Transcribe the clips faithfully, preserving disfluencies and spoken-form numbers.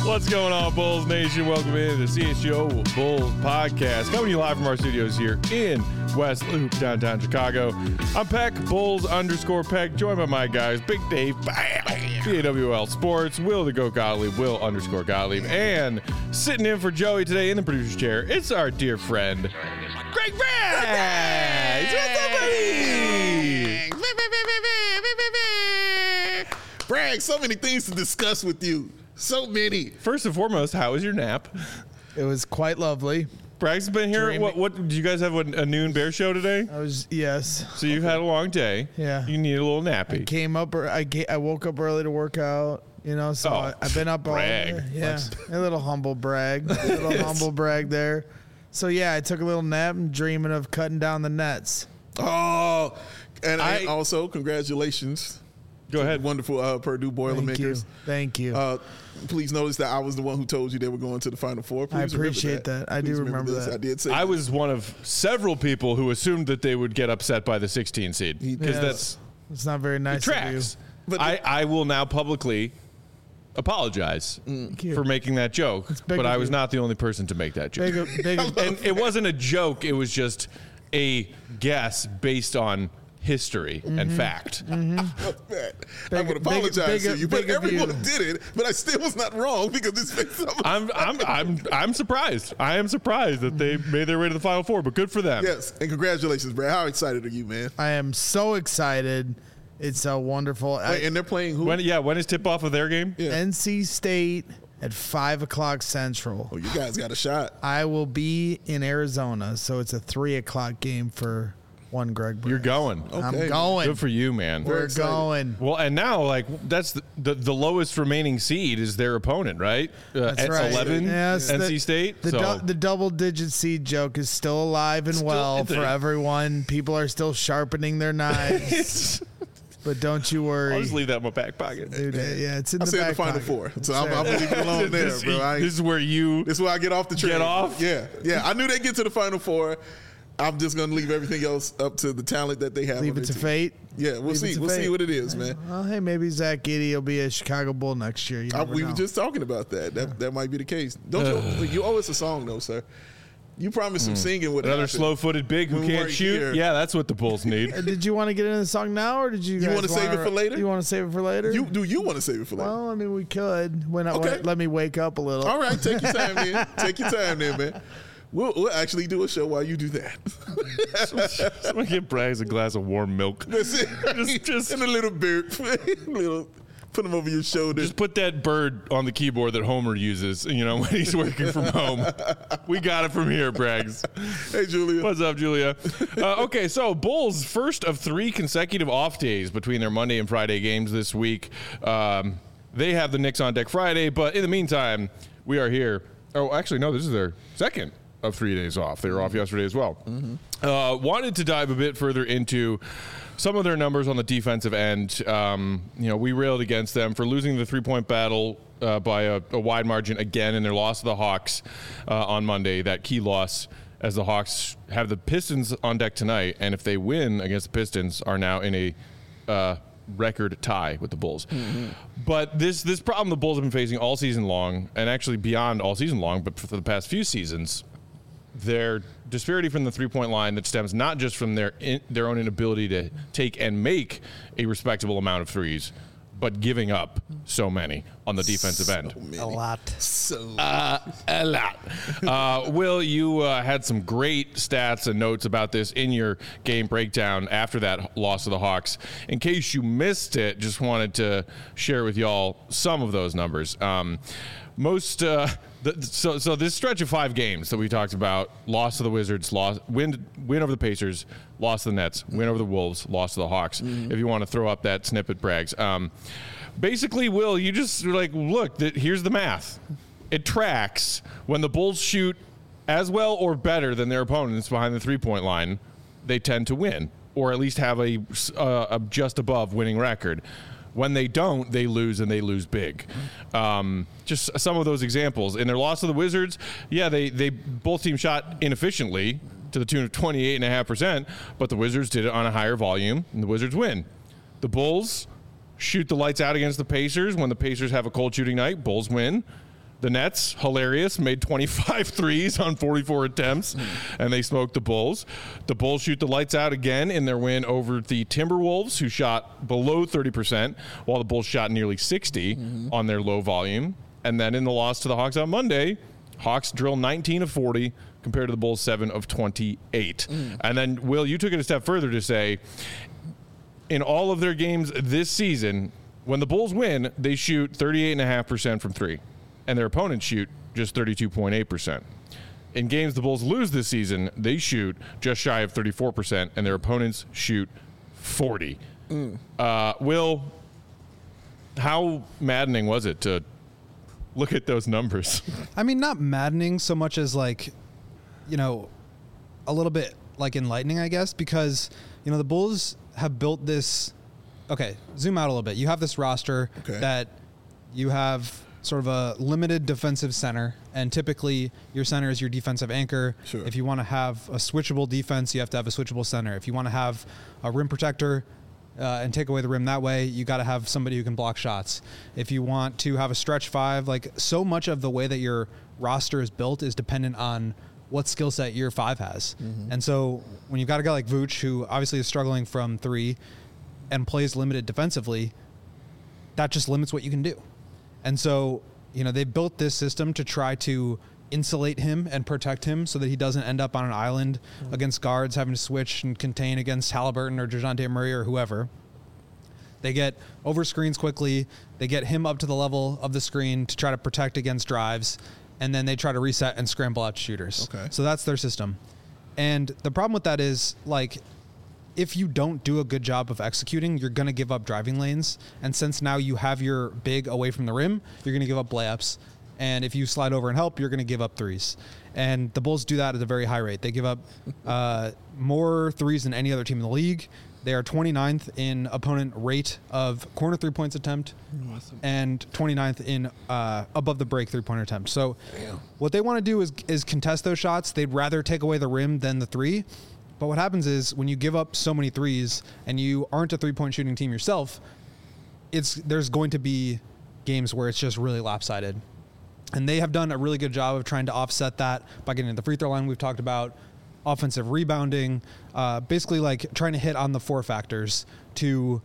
What's going on, Bulls Nation? Welcome in to the C H G O Bulls podcast. Coming to you live from our studios here in West Loop, downtown Chicago. I'm Peck, Bulls underscore Peck, joined by my guys, Big Dave, B A W L Sports, Will the Goat Gottlieb, Will underscore Gottlieb, and sitting in for Joey today in the producer's chair, it's our dear friend, Greg Braggs. What's up, buddy? Bragg, so many things to discuss with you. So many. First and foremost, how was your nap? It was quite lovely. Braggs has been here. Dreaming. What, what did you guys have a, a noon bear show today? I was yes. So you've had a long day. Yeah. You need a little nappy. I came up. ear- I ga- I woke up early to work out. You know, so Oh, I, I've been up all brag. Yeah, a little humble brag. A little Yes. humble brag there. So yeah, I took a little nap and dreaming of cutting down the nets. Oh, and, I- and also congratulations. Go to ahead. the wonderful uh, Purdue Thank you. Boilermakers. Thank you. Uh, please notice that I was the one who told you they were going to the Final Four. Please I remember appreciate that. I do Please remember this. that. I did say I that. was one of several people who assumed that they would get upset by the sixteen seed because Yeah, that's it's not very it nice of you. tracks. But I, I will now publicly apologize Thank you. for making that joke, big but of I was you. not the only person to make that joke. Big, of- big, of- And it wasn't a joke; it was just a guess based on history Mm-hmm. and fact. Fuck that. I Big- would big- apologize big- to you, but big of everyone you. did it. But I still was not wrong because this makes some. I'm I'm I'm I'm surprised. I am surprised that they made their way to the Final Four, but good for them. Yes, and congratulations, Brad. How excited are you, man? I am so excited. It's so wonderful. I- Wait, and they're playing who? When yeah, when is tip off of their game? Yeah. N C State at five o'clock Central. Oh, you guys got a shot. I will be in Arizona, so it's a three o'clock game for one Greg. You're Braggs. going. I'm Okay. going. Good for you, man. We're excited. going. Well, and now, like, that's the, the, the lowest remaining seed is their opponent, right? Uh, That's at right. eleven, Yes, N C the- State. The, so du- the double-digit seed joke is still alive and well Still- for everyone. People are still sharpening their knives, but don't you I'll worry. just leave that in my back pocket. Dude, yeah, it's in I the said back the Final pocket. Four, so It's I'm, there. I'm gonna leave it alone there, this, bro. I ain't- this is where you. This is where I get off the train. Get off? Yeah, yeah. I knew they'd get to the Final Four. I'm just gonna leave everything else up to the talent that they have. Leave on it their to team. fate. Yeah, we'll Leave it see. to We'll see fate. what it is, man. Well, hey, maybe Zach Giddy will be a Chicago Bull next year. You I, never we know. were just talking about that. That that might be the case. Don't you? You owe us a song, though, sir. You promised some singing with Another slow-footed big who When we can't weren't shoot. here. Yeah, that's what the Bulls need. Uh, Did you want to get into the song now, or did you? You guys wanna save it for later? You want to save it for later? You do you want to save it for later? Well, I mean, we could. When I, Okay. when- let me wake up a little. All right, take your time, man. Take your time, there, man. We'll, we'll actually do a show while you do that. Someone get Braggs a glass of warm milk. That's it. Just- just- and a little beard, little, put them over your shoulder. Just put that bird on the keyboard that Homer uses, you know, when he's working from home. We got it from here, Braggs. Hey, Julia. What's up, Julia? Uh, okay, so Bulls' first of three consecutive off days between their Monday and Friday games this week. Um, they have the Knicks on deck Friday, but in the meantime, we are here. Oh, actually, no, this is their second of three days off. They were off yesterday as well. Uh, wanted to dive a bit further into some of their numbers on the defensive end. Um, you know, we railed against them for losing the three-point battle uh, by a, a wide margin again in their loss to the Hawks uh, on Monday, that key loss, as the Hawks have the Pistons on deck tonight, and if they win against the Pistons, are now in a uh, record tie with the Bulls. But this this problem the Bulls have been facing all season long, and actually beyond all season long, but for the past few seasons, their disparity from the three-point line that stems not just from their in, their own inability to take and make a respectable amount of threes, but giving up so many on the defensive end. A lot. So Uh, a lot. Uh, Will, you uh, had some great stats and notes about this in your game breakdown after that loss to the Hawks. In case you missed it, just wanted to share with y'all some of those numbers. Um, most, uh, the, so so this stretch of five games that we talked about: loss to the Wizards, loss, win win over the Pacers, loss to the Nets, win over the Wolves, loss to the Hawks. If you want to throw up that snippet, Braggs. Um, basically, Will, you just like look. That here's the math. It tracks when the Bulls shoot as well or better than their opponents behind the three-point line, they tend to win, or at least have a, uh, a just above winning record. When they don't, they lose, and they lose big. Um, just some of those examples. In their loss to the Wizards, yeah, they, they both teams shot inefficiently to the tune of twenty-eight point five percent, but the Wizards did it on a higher volume, and the Wizards win. The Bulls shoot the lights out against the Pacers. When the Pacers have a cold shooting night, Bulls win. The Nets, hilarious, made twenty-five threes on forty-four attempts, mm. and they smoked the Bulls. The Bulls shoot the lights out again in their win over the Timberwolves, who shot below thirty percent, while the Bulls shot nearly sixty mm-hmm. on their low volume. And then in the loss to the Hawks on Monday, Hawks drill nineteen of forty compared to the Bulls seven of twenty-eight. Mm. And then, Will, you took it a step further to say, in all of their games this season, when the Bulls win, they shoot thirty-eight point five percent from three. And their opponents shoot just thirty-two point eight percent. In games the Bulls lose this season, they shoot just shy of thirty-four percent, and their opponents shoot forty. Mm. Uh, Will, how maddening was it to look at those numbers? I mean, not maddening so much as, like, you know, a little bit, like, enlightening, I guess, because, you know, the Bulls have built this. Okay, zoom out a little bit. You have this roster okay. that you have sort of a limited defensive center, and typically your center is your defensive anchor. Sure. If you want to have a switchable defense, you have to have a switchable center. If you want to have a rim protector uh, and take away the rim that way, you got to have somebody who can block shots. If you want to have a stretch five, like, so much of the way that your roster is built is dependent on what skill set your five has. Mm-hmm. And so when you've got a guy like Vooch, who obviously is struggling from three and plays limited defensively, that just limits what you can do. And so, you know, they built this system to try to insulate him and protect him so that he doesn't end up on an island mm-hmm. against guards having to switch and contain against Halliburton or DeJounte Murray or whoever. They get over screens quickly. They get him up to the level of the screen to try to protect against drives, and then they try to reset and scramble out shooters. Okay. So that's their system. And the problem with that is, like, if you don't do a good job of executing, you're going to give up driving lanes. And since now you have your big away from the rim, you're going to give up layups. And if you slide over and help, you're going to give up threes. And the Bulls do that at a very high rate. They give up uh, more threes than any other team in the league. They are twenty-ninth in opponent rate of corner three points attempt awesome. and twenty-ninth in uh, above the break three-pointer attempt. So Damn. what they want to do is is contest those shots. They'd rather take away the rim than the three. But what happens is when you give up so many threes and you aren't a three-point shooting team yourself, it's there's going to be games where it's just really lopsided. And they have done a really good job of trying to offset that by getting to the free throw line. We've talked about offensive rebounding, uh, basically like trying to hit on the four factors to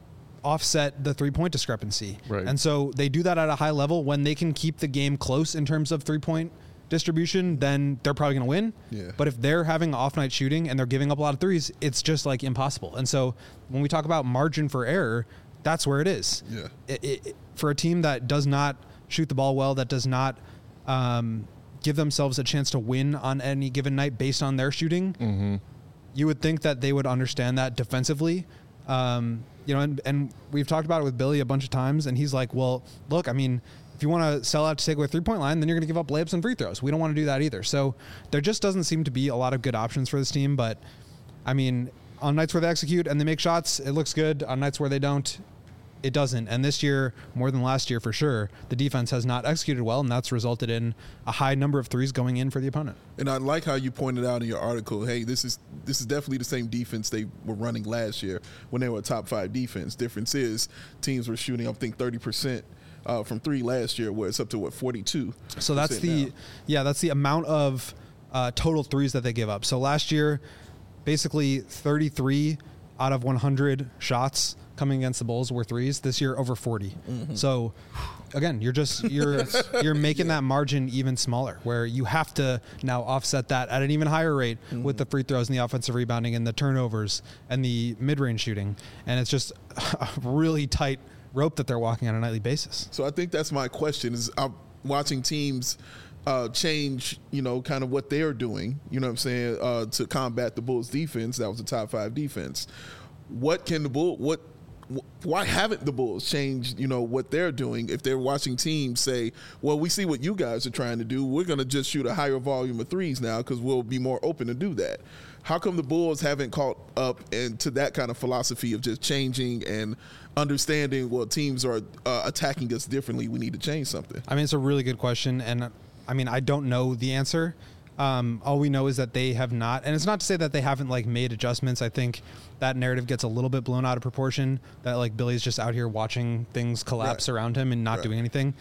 offset the three-point discrepancy. Right. And so they do that at a high level. When they can keep the game close in terms of three-point distribution, then they're probably going to win. Yeah. But if they're having off night shooting and they're giving up a lot of threes, it's just like impossible. And so when we talk about margin for error, that's where it is. Yeah. It, it, for a team that does not shoot the ball well, that does not um, give themselves a chance to win on any given night based on their shooting, mm-hmm. you would think that they would understand that defensively. Um, you know, and, and we've talked about it with Billy a bunch of times, and he's like, well, look, I mean, if you want to sell out to take away three-point line, then you're going to give up layups and free throws. We don't want to do that either. So there just doesn't seem to be a lot of good options for this team. But, I mean, on nights where they execute and they make shots, it looks good. On nights where they don't, it doesn't. And this year, more than last year for sure, the defense has not executed well, and that's resulted in a high number of threes going in for the opponent. And I like how you pointed out in your article, hey, this is this is definitely the same defense they were running last year when they were a top five defense. Difference is teams were shooting, I think, thirty percent. Uh, from three last year, where it's up to what forty-two. So that's the now. yeah, that's the amount of uh, total threes that they give up. So last year, basically thirty-three out of one hundred shots coming against the Bulls were threes. This year, over forty. Mm-hmm. So again, you're just you're you're making yeah. that margin even smaller, where you have to now offset that at an even higher rate mm-hmm. with the free throws and the offensive rebounding and the turnovers and the mid-range shooting, and it's just a really tight rope that they're walking on a nightly basis. So I think that's my question is I'm watching teams uh, change, you know, kind of what they're doing, you know what I'm saying, uh, to combat the Bulls defense. That was a top five defense. What can the Bulls, what, wh- why haven't the Bulls changed, you know, what they're doing if they're watching teams say, well, we see what you guys are trying to do. We're going to just shoot a higher volume of threes now because we'll be more open to do that. How come the Bulls haven't caught up into that kind of philosophy of just changing and understanding, well, teams are uh, attacking us differently, we need to change something? I mean, it's a really good question, and I mean, I don't know the answer. Um, all we know is that they have not, and it's not to say that they haven't like made adjustments. I think that narrative gets a little bit blown out of proportion, that like Billy's just out here watching things collapse right. around him and not right. doing anything.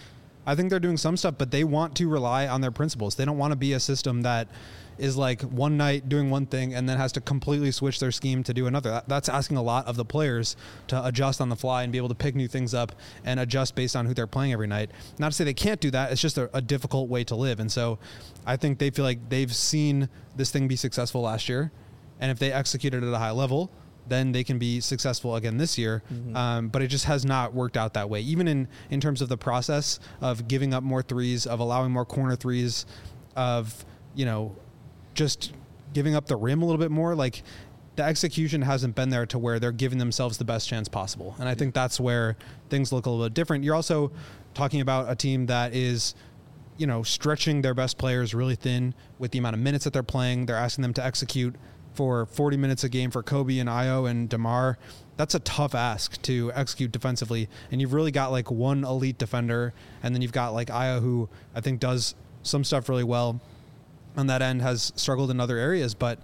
I think they're doing some stuff, but they want to rely on their principles. They don't want to be a system that is like one night doing one thing and then has to completely switch their scheme to do another. That, that's asking a lot of the players to adjust on the fly and be able to pick new things up and adjust based on who they're playing every night. Not to say they can't do that. It's just a, a difficult way to live. And so I think they feel like they've seen this thing be successful last year. And if they execute it at a high level, then they can be successful again this year. Mm-hmm. Um, but it just has not worked out that way. Even in, in terms of the process of giving up more threes, of allowing more corner threes, of, you know, just giving up the rim a little bit more, like the execution hasn't been there to where they're giving themselves the best chance possible. And I think that's where things look a little bit different. You're also talking about a team that is, you know, stretching their best players really thin with the amount of minutes that they're playing. They're asking them to execute for forty minutes a game for Kobe and Ayo and DeMar. That's a tough ask to execute defensively. And you've really got like one elite defender, and then you've got like Ayo, who I think does some stuff really well on that end, has struggled in other areas, but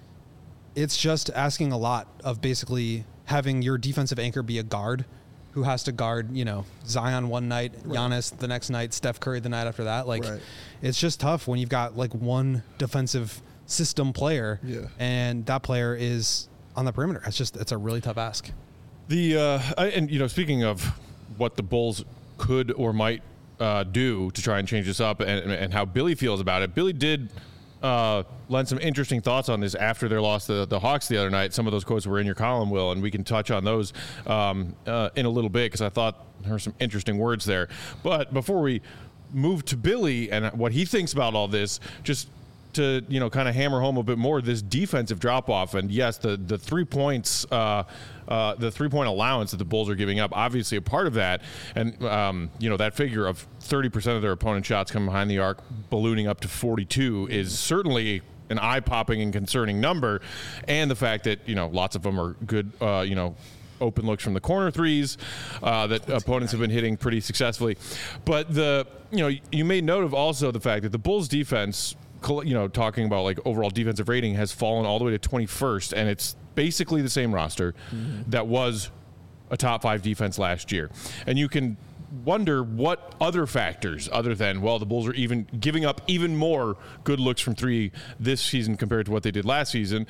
it's just asking a lot of basically having your defensive anchor be a guard who has to guard, you know, Zion one night, right. Giannis the next night, Steph Curry the night after that. Like, right. It's just tough when you've got like one defensive system player, yeah. and that player is on the perimeter. It's just, it's a really tough ask. The uh, I, and you know, speaking of what the Bulls could or might Uh, do to try and change this up, and, and how Billy feels about it. Billy did uh, lend some interesting thoughts on this after their loss to the Hawks the other night. Some of those quotes were in your column, Will, and we can touch on those um, uh, in a little bit because I thought there were some interesting words there. But before we move to Billy and what he thinks about all this, just to, you know, kind of hammer home a bit more this defensive drop off. And yes, the the three points, uh, uh, the three point allowance that the Bulls are giving up, obviously a part of that. And um, you know, that figure of thirty percent of their opponent shots coming behind the arc, ballooning up to forty-two, is certainly an eye popping and concerning number. And the fact that, you know, lots of them are good, uh, you know, open looks from the corner threes uh, that opponents have been hitting pretty successfully. But the, you know, you made note of also the fact that the Bulls defense, you know, talking about like overall defensive rating, has fallen all the way to twenty-first, and it's basically the same roster mm-hmm. that was a top five defense last year. And you can wonder what other factors other than, well, the Bulls are even giving up even more good looks from three this season compared to what they did last season.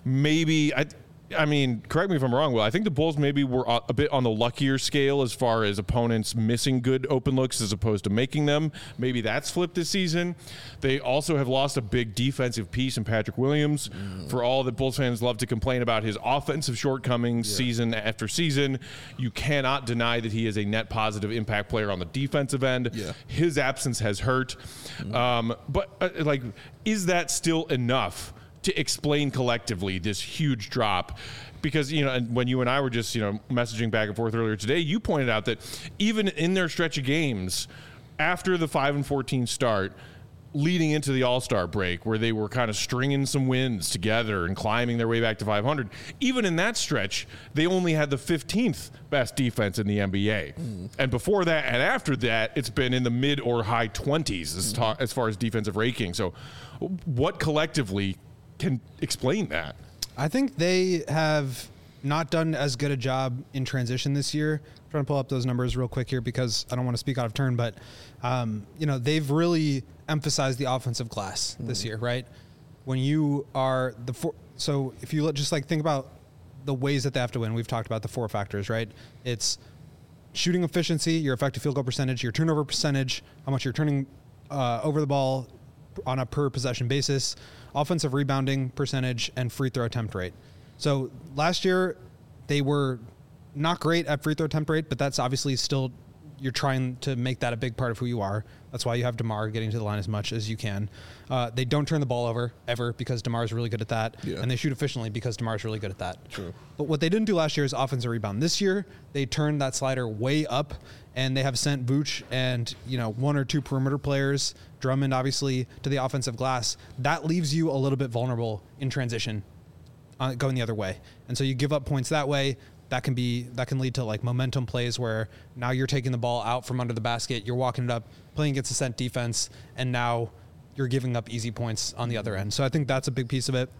Maybe I I mean, correct me if I'm wrong, Will. I think the Bulls maybe were a bit on the luckier scale as far as opponents missing good open looks as opposed to making them. Maybe that's flipped this season. They also have lost a big defensive piece in Patrick Williams. Mm. For all that Bulls fans love to complain about his offensive shortcomings yeah. season after season, you cannot deny that he is a net positive impact player on the defensive end. Yeah. His absence has hurt. Mm. Um, but, uh, like, is that still enough to explain collectively this huge drop? Because, you know, and when you and I were just, you know, messaging back and forth earlier today, you pointed out that even in their stretch of games after the five and fourteen start, leading into the All-Star break, where they were kind of stringing some wins together and climbing their way back to five hundred, even in that stretch, they only had the fifteenth best defense in the N B A. Mm. And before that and after that, it's been in the mid or high twenties as, ta- as far as defensive ranking. So what collectively can explain that? I think they have not done as good a job in transition this year. I'm trying to pull up those numbers real quick here because I don't want to speak out of turn, but um, you know, they've really emphasized the offensive glass mm. this year, right? When you are the four, so if you look, just like think about the ways that they have to win. We've talked about the four factors, right? It's shooting efficiency, your effective field goal percentage, your turnover percentage, how much you're turning uh, over the ball on a per possession basis, offensive rebounding percentage, and free throw attempt rate. So last year they were not great at free throw attempt rate, but that's obviously still, you're trying to make that a big part of who you are. That's why you have DeMar getting to the line as much as you can. Uh, they don't turn the ball over ever because DeMar is really good at that. Yeah. And they shoot efficiently because DeMar is really good at that. True. But what they didn't do last year is offensive rebound. This year, they turned that slider way up, and they have sent Vooch and, you know, one or two perimeter players, Drummond obviously, to the offensive glass. That leaves you a little bit vulnerable in transition, uh, going the other way. And so you give up points that way. That can be that can lead to like momentum plays where now you're taking the ball out from under the basket, you're walking it up, playing against a sent defense, and now you're giving up easy points on the other end. So I think that's a big piece of it.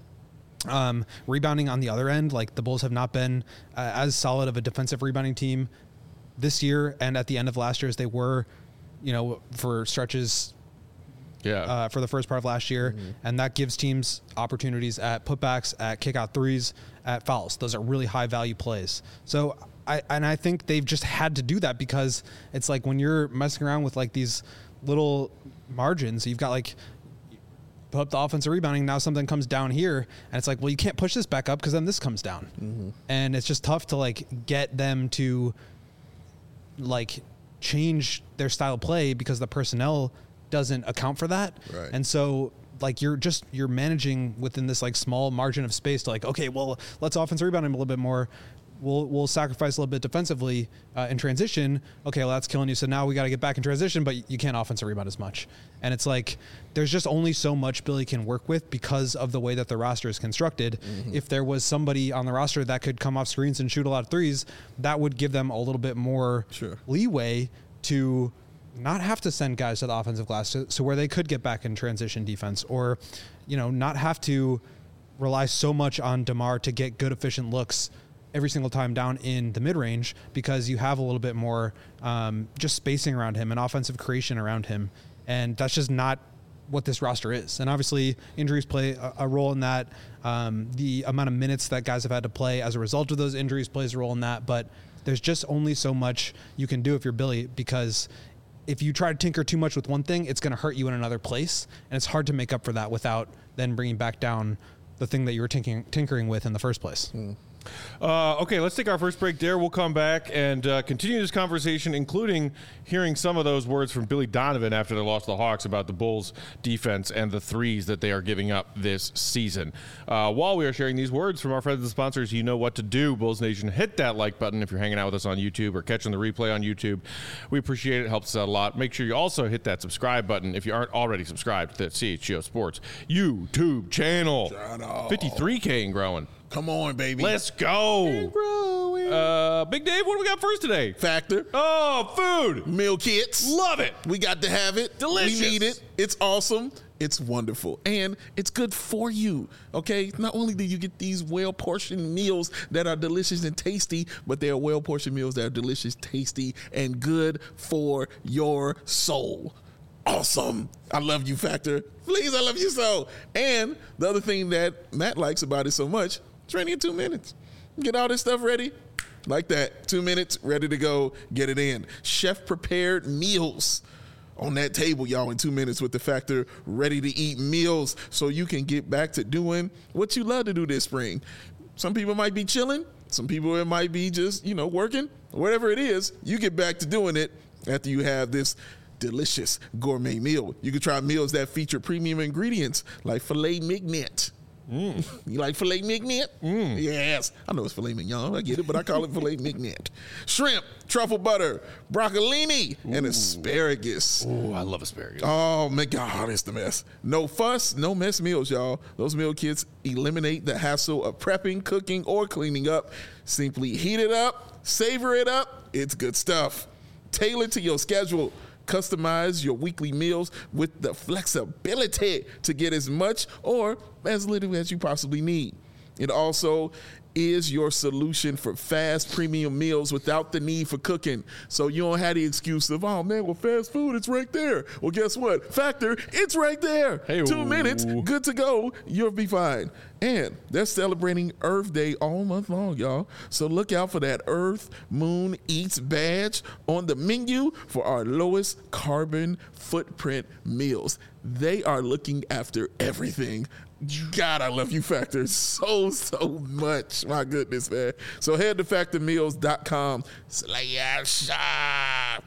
Um, rebounding on the other end, like the Bulls have not been uh, as solid of a defensive rebounding team this year and at the end of last year as they were you know, for stretches Yeah. uh, for the first part of last year, Mm-hmm. and that gives teams opportunities at putbacks, at kickout threes, at fouls. Those are really high value plays. So I and I think they've just had to do that because it's like when you're messing around with like these little margins, you've got like put up the offensive rebounding. Now something comes down here, and it's like, well, you can't push this back up because then this comes down, Mm-hmm. and it's just tough to like get them to like change their style of play because the personnel doesn't account for that. Right. And so like you're just you're managing within this like small margin of space to like, okay, well, let's offensive rebound him a little bit more. We'll we'll sacrifice a little bit defensively uh, in transition. Okay, well, that's killing you. So now we got to get back in transition, but you can't offensive rebound as much. And it's like there's just only so much Billy can work with because of the way that the roster is constructed. Mm-hmm. If there was somebody on the roster that could come off screens and shoot a lot of threes, that would give them a little bit more Sure. leeway to not have to send guys to the offensive glass to, so where they could get back in transition defense, or, you know, not have to rely so much on DeMar to get good, efficient looks every single time down in the mid range, because you have a little bit more um, just spacing around him and offensive creation around him. And that's just not what this roster is. And obviously injuries play a, a role in that. Um, the amount of minutes that guys have had to play as a result of those injuries plays a role in that. But there's just only so much you can do if you're Billy, because if you try to tinker too much with one thing, it's going to hurt you in another place. And it's hard to make up for that without then bringing back down the thing that you were tinkering, tinkering with in the first place. Mm. Uh, okay, let's take our first break there. We'll come back and uh, continue this conversation, including hearing some of those words from Billy Donovan after they lost to the Hawks about the Bulls' defense and the threes that they are giving up this season. Uh, while we are sharing these words from our friends and sponsors, you know what to do. Bulls Nation, hit that like button if you're hanging out with us on YouTube or catching the replay on YouTube. We appreciate it. It helps us out a lot. Make sure you also hit that subscribe button if you aren't already subscribed to the C H G O Sports YouTube channel. fifty-three K and growing. Come on, baby. Let's go. Uh, Big Dave, what do we got first today? Factor. Oh, food. Meal kits. Love it. We got to have it. Delicious. We need it. It's awesome. It's wonderful. And it's good for you. Okay? Not only do you get these well-portioned meals that are delicious and tasty, but they are well-portioned meals that are delicious, tasty, and good for your soul. Awesome. I love you, Factor. Please, I love you so. And the other thing that Matt likes about it so much, it's ready in two minutes. Get all this stuff ready like that. Two minutes, ready to go. Get it in. Chef-prepared meals on that table, y'all, in two minutes with the Factor ready-to-eat meals so you can get back to doing what you love to do this spring. Some people might be chilling. Some people, it might be just, you know, working. Whatever it is, you get back to doing it after you have this delicious gourmet meal. You can try meals that feature premium ingredients like filet mignon. Mm. You like filet mignon? Mm. Yes. I know it's filet mignon. I get it, but I call it filet mignon. Shrimp, truffle butter, broccolini, Ooh. and asparagus. Oh, I love asparagus. Oh, my God, it's the mess. No fuss, no mess meals, y'all. Those meal kits eliminate the hassle of prepping, cooking, or cleaning up. Simply heat it up, savor it up. It's good stuff. Tailored to your schedule. Customize your weekly meals with the flexibility to get as much or as little as you possibly need. It also is your solution for fast premium meals without the need for cooking. So you don't have the excuse of, oh man, well, fast food, it's right there. Well, guess what? Factor, it's right there. Hey-o. Two minutes, good to go. You'll be fine. And they're celebrating Earth Day all month long, y'all. So look out for that Earth Moon Eats badge on the menu for our lowest carbon footprint meals. They are looking after everything. God, I love you, Factor, so, so much. My goodness, man. So head to factor meals dot com slash. I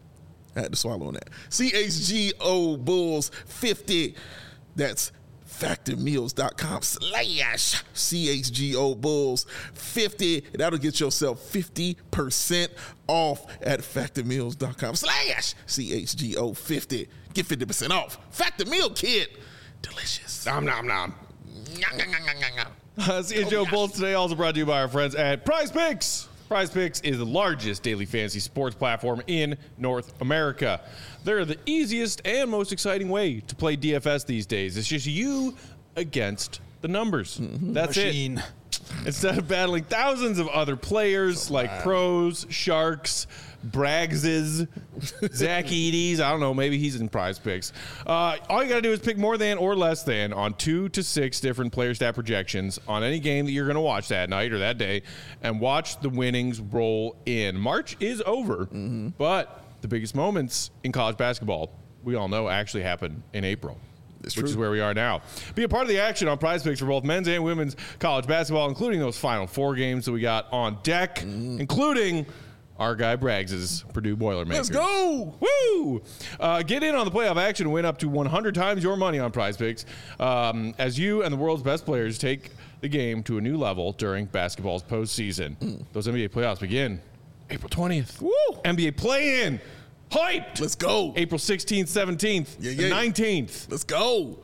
had to swallow on that. C H G O Bulls fifty. That's factor meals dot com slash C H G O Bulls fifty. That'll get yourself fifty percent off at factor meals dot com slash C H G O fifty. Get fifty percent off. Factor Meal Kit. Delicious. Nom, nom, nom. Nom, nom, nom, nom, nom, nom. Uh, C H G O Oh, Bulls today also brought to you by our friends at Prize Picks. Prize Picks is the largest daily fantasy sports platform in North America. They're the easiest and most exciting way to play D F S these days. It's just you against the numbers. Mm-hmm. That's Machine. it. instead of battling thousands of other players like pros, sharks, Braggses, Zach Eady's. I don't know. Maybe he's in Prize Picks. Uh, all you got to do is pick more than or less than on two to six different player stat projections on any game that you're going to watch that night or that day, and watch the winnings roll in. March is over, mm-hmm. but the biggest moments in college basketball, we all know, actually happen in April. It's which true. Is where we are now. Be a part of the action on Prize Picks for both men's and women's college basketball, including those Final Four games that we got on deck, mm. including our guy Braggs' Purdue Boilermakers. Let's go! Woo! Uh, get in on the playoff action and win up to one hundred times your money on Prize Picks um, as you and the world's best players take the game to a new level during basketball's postseason. Mm. Those N B A playoffs begin April twentieth. Woo! N B A play-in. Hyped! Let's go. April sixteenth, seventeenth, yeah, yeah. and nineteenth. Let's go.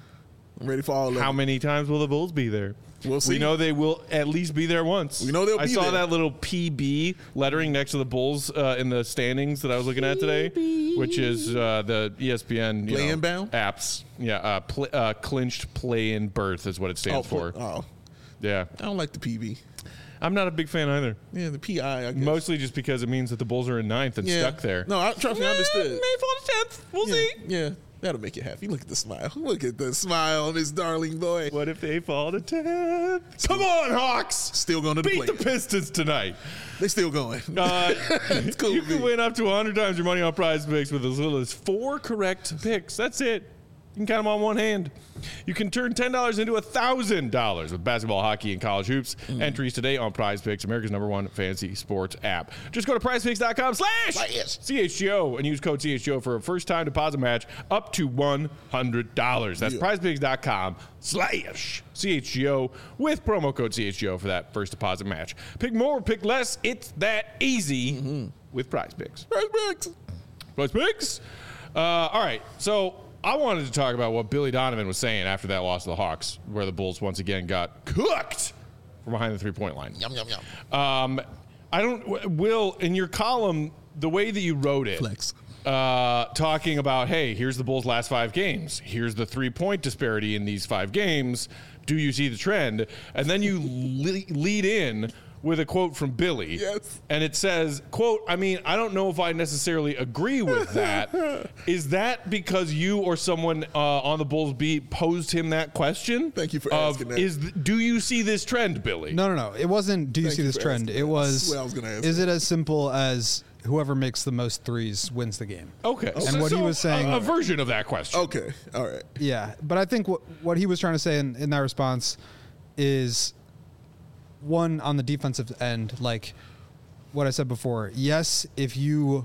I'm ready for all of it. How many times will the Bulls be there? We'll see. We know they will at least be there once. We know they'll be I saw there. that little P B lettering next to the Bulls uh, in the standings that I was looking at today, which is uh, the E S P N you play know, in bound apps. Yeah, uh, pl- uh, clinched play in berth is what it stands oh, for. Oh, yeah. I don't like the P B. I'm not a big fan either. Yeah, the P I. I guess. Mostly just because it means that the Bulls are in ninth and yeah. stuck there. No, I, trust me, I understood. May fall to tenth. We'll yeah, see. Yeah. That'll make you happy. Look at the smile. Look at the smile on this darling boy. What if they fall to tenth? Come on, Hawks! Still going to the Beat play. the Pistons tonight. They still going. Uh, it's cool. You can win up to one hundred times your money on Prize Picks with as little as four correct picks. That's it. You can count them on one hand. You can turn ten dollars into one thousand dollars with basketball, hockey, and college hoops. Mm. Entries today on Prize Picks, America's number one fantasy sports app. Just go to prizepicks.com slash C H G O and use code C H G O for a first-time deposit match up to one hundred dollars. That's yeah. prizepicks.com slash C H G O with promo code C H G O for that first deposit match. Pick more, pick less. It's that easy mm-hmm. with Prize Picks. Prize Picks. Prize Picks. Uh, all right, so I wanted to talk about what Billy Donovan was saying after that loss to the Hawks, where the Bulls once again got cooked from behind the three-point line. Yum, yum, yum. Um, I don't, Will, in your column, the way that you wrote it, Flex. Uh, talking about, hey, here's the Bulls' last five games. Here's the three-point disparity in these five games. Do you see the trend? And then you le- lead in with a quote from Billy. Yes. And it says, quote, I mean, I don't know if I necessarily agree with that. Is that because you or someone uh, on the Bulls beat posed him that question? Thank you for of, asking that. Is, do you see this trend, Billy? No, no, no. It wasn't, do you Thank see you this for trend? asking It that. was, That's what I was gonna ask is that. it as simple as whoever makes the most threes wins the game? Okay. And So- what he so was saying- A, a version of that question. Okay. All right. Yeah, but I think what what he was trying to say in, in that response is one on the defensive end, like what I said before. Yes, if you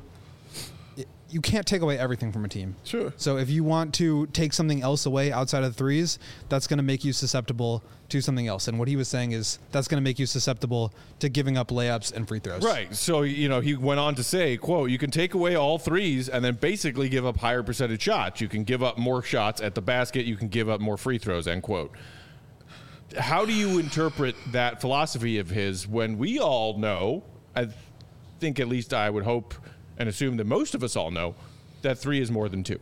you can't take away everything from a team. Sure. So if you want to take something else away outside of the threes, that's going to make you susceptible to something else. And what he was saying is that's going to make you susceptible to giving up layups and free throws. Right. So, you know, he went on to say, quote, you can take away all threes and then basically give up higher percentage shots. You can give up more shots at the basket. You can give up more free throws, end quote. How do you interpret that philosophy of his when we all know, I think at least I would hope and assume that most of us all know, that three is more than two?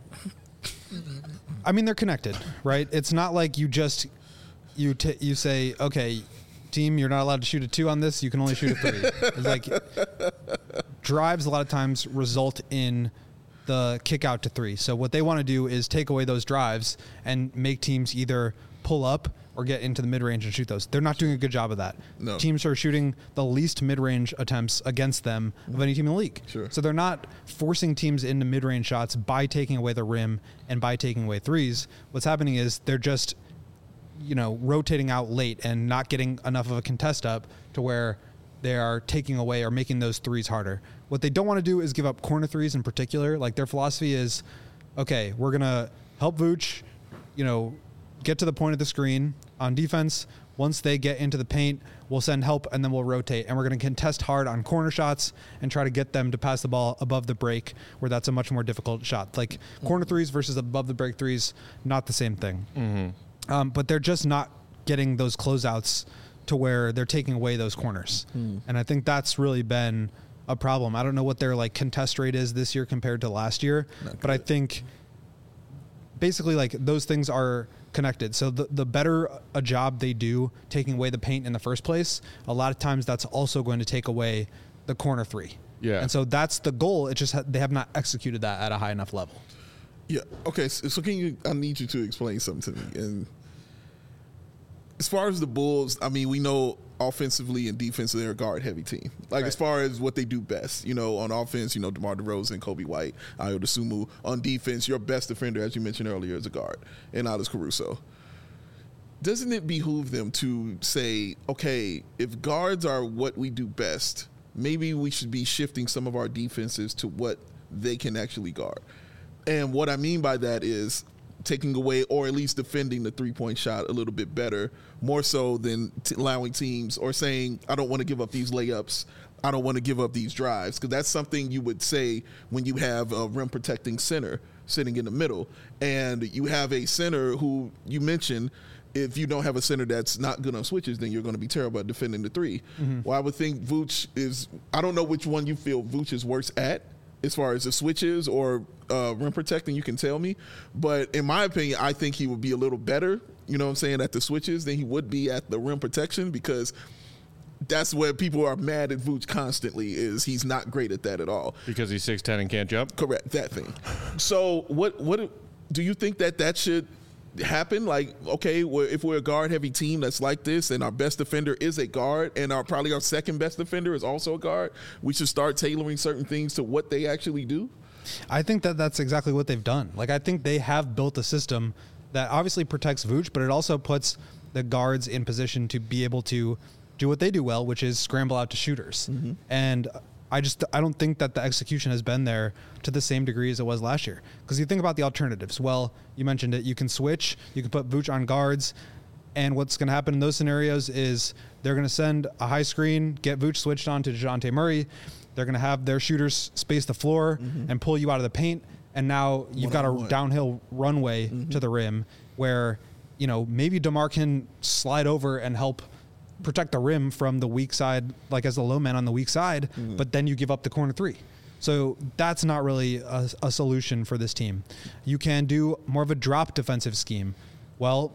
I mean, they're connected, right? It's not like you just you t- you say, okay, team, you're not allowed to shoot a two on this. You can only shoot a three. It's like drives a lot of times result in the kick out to three. So what they want to do is take away those drives and make teams either pull up or get into the mid-range and shoot those. They're not doing a good job of that. No. Teams are shooting the least mid-range attempts against them of any team in the league. Sure. So they're not forcing teams into mid-range shots by taking away the rim and by taking away threes. What's happening is they're just, you know, rotating out late and not getting enough of a contest up to where they are taking away or making those threes harder. What they don't want to do is give up corner threes in particular. Like their philosophy is, okay, we're going to help Vooch, you know, get to the point of the screen on defense. Once they get into the paint, we'll send help and then we'll rotate. And we're going to contest hard on corner shots and try to get them to pass the ball above the break, where that's a much more difficult shot. Like mm-hmm. corner threes versus above the break threes, not the same thing. Mm-hmm. Um, but they're just not getting those closeouts to where they're taking away those corners. Mm. And I think that's really been a problem. I don't know what their like contest rate is this year compared to last year, but I think basically like those things are connected. So the, the better a job they do taking away the paint in the first place, a lot of times that's also going to take away the corner three. Yeah. And so that's the goal. It just ha- they have not executed that at a high enough level. Yeah. Okay. So, so can you? I need you to explain something to me. And as far as the Bulls, I mean, we know offensively and defensively they're a guard-heavy team. Like, right. as far as what they do best, you know, on offense, you know, DeMar DeRozan, Kobe White, Ayo Dosunmu. On defense, your best defender, as you mentioned earlier, is a guard, and Alex Caruso. Doesn't it behoove them to say, okay, if guards are what we do best, maybe we should be shifting some of our defenses to what they can actually guard? And what I mean by that is taking away or at least defending the three-point shot a little bit better, more so than t- allowing teams or saying, I don't want to give up these layups, I don't want to give up these drives, because that's something you would say when you have a rim-protecting center sitting in the middle. And you have a center who you mentioned, if you don't have a center that's not good on switches, then you're going to be terrible at defending the three. Mm-hmm. Well, I would think Vooch is, I don't know which one you feel Vooch is worse at, as far as the switches or uh, rim protecting, you can tell me. But in my opinion, I think he would be a little better, you know what I'm saying, at the switches than he would be at the rim protection, because that's where people are mad at Vooch constantly, is he's not great at that at all. Because he's six ten and can't jump? Correct, that thing. So what what do you think that that should happen? Like, okay, we're, if we're a guard-heavy team that's like this, and our best defender is a guard, and our probably our second best defender is also a guard, we should start tailoring certain things to what they actually do? I think that that's exactly what they've done. Like, I think they have built a system that obviously protects Vooch, but it also puts the guards in position to be able to do what they do well, which is scramble out to shooters. Mm-hmm. And I just I don't think that the execution has been there to the same degree as it was last year. Because you think about the alternatives. Well, you mentioned it. You can switch. You can put Vooch on guards. And what's going to happen in those scenarios is they're going to send a high screen, get Vooch switched on to DeJounte Murray. They're going to have their shooters space the floor mm-hmm. and pull you out of the paint. And now you've got a one. downhill runway mm-hmm. to the rim where, you know, maybe DeMar can slide over and help protect the rim from the weak side, like as the low man on the weak side, mm-hmm. but then you give up the corner three. So that's not really a, a solution for this team. You can do more of a drop defensive scheme. Well,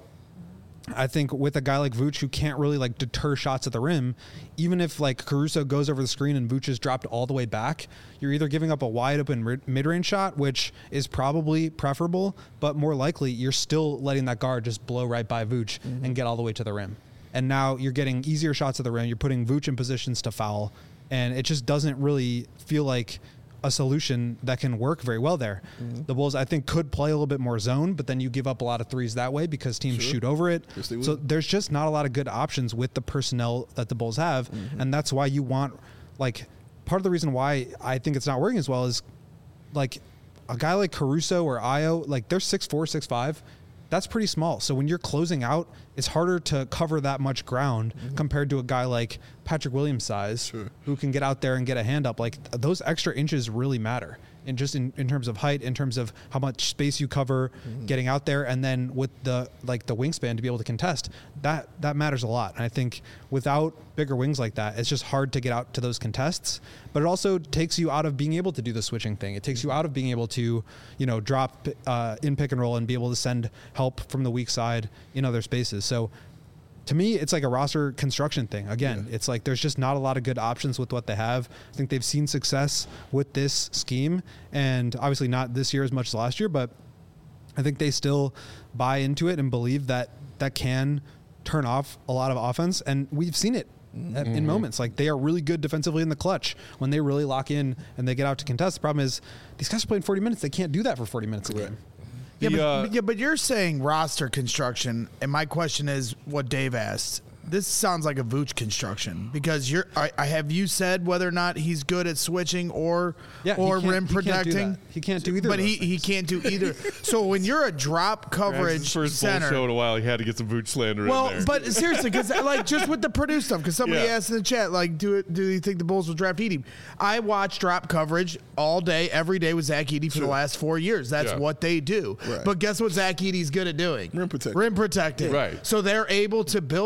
I think with a guy like Vooch who can't really like deter shots at the rim, even if like Caruso goes over the screen and Vooch is dropped all the way back, you're either giving up a wide open mid-range shot, which is probably preferable, but more likely you're still letting that guard just blow right by Vooch mm-hmm. and get all the way to the rim. And now you're getting easier shots at the rim. You're putting Vooch in positions to foul. And it just doesn't really feel like a solution that can work very well there. Mm-hmm. The Bulls, I think, could play a little bit more zone, but then you give up a lot of threes that way because teams sure. shoot over it. Yes, so there's just not a lot of good options with the personnel that the Bulls have. Mm-hmm. And that's why you want, like, part of the reason why I think it's not working as well is, like, a guy like Caruso or Ayo, like, they're six four, six five. That's pretty small. So when you're closing out, it's harder to cover that much ground mm-hmm. compared to a guy like Patrick Williams size sure. who can get out there and get a hand up. Like th- those extra inches really matter. And just in, in terms of height, in terms of how much space you cover mm-hmm. getting out there, and then with the like the wingspan to be able to contest, that that matters a lot. And I think without bigger wings like that, it's just hard to get out to those contests. But it also takes you out of being able to do the switching thing. It takes you out of being able to, you know, drop uh, in pick and roll and be able to send help from the weak side in other spaces. So to me, it's like a roster construction thing. Again, yeah. it's like there's just not a lot of good options with what they have. I think they've seen success with this scheme, and obviously not this year as much as last year, but I think they still buy into it and believe that that can turn off a lot of offense, and we've seen it mm-hmm. in moments. Like they are really good defensively in the clutch when they really lock in and they get out to contest. The problem is these guys are playing forty minutes. They can't do that for forty minutes a game. Yeah, the, but, uh, yeah, but you're saying roster construction, and my question is what Dave asked. This sounds like a Vooch construction because you're. I, I have you said whether or not he's good at switching or yeah, or rim he protecting. Can't he can't do either. But of he, those he can't do either. So when you're a drop coverage his first center, show in a while, he had to get some Vooch slander well, in there. but seriously, because like just with the Purdue stuff, because somebody Yeah. asked in the chat, like, do it? Do you think the Bulls will draft Edey? I watch drop coverage all day, every day with Zach Edey for Sure. the last four years. That's Yeah. what they do. Right. But guess what Zach Edey's good at doing? Rim protecting. Rim protecting. Right. So they're able to build their defense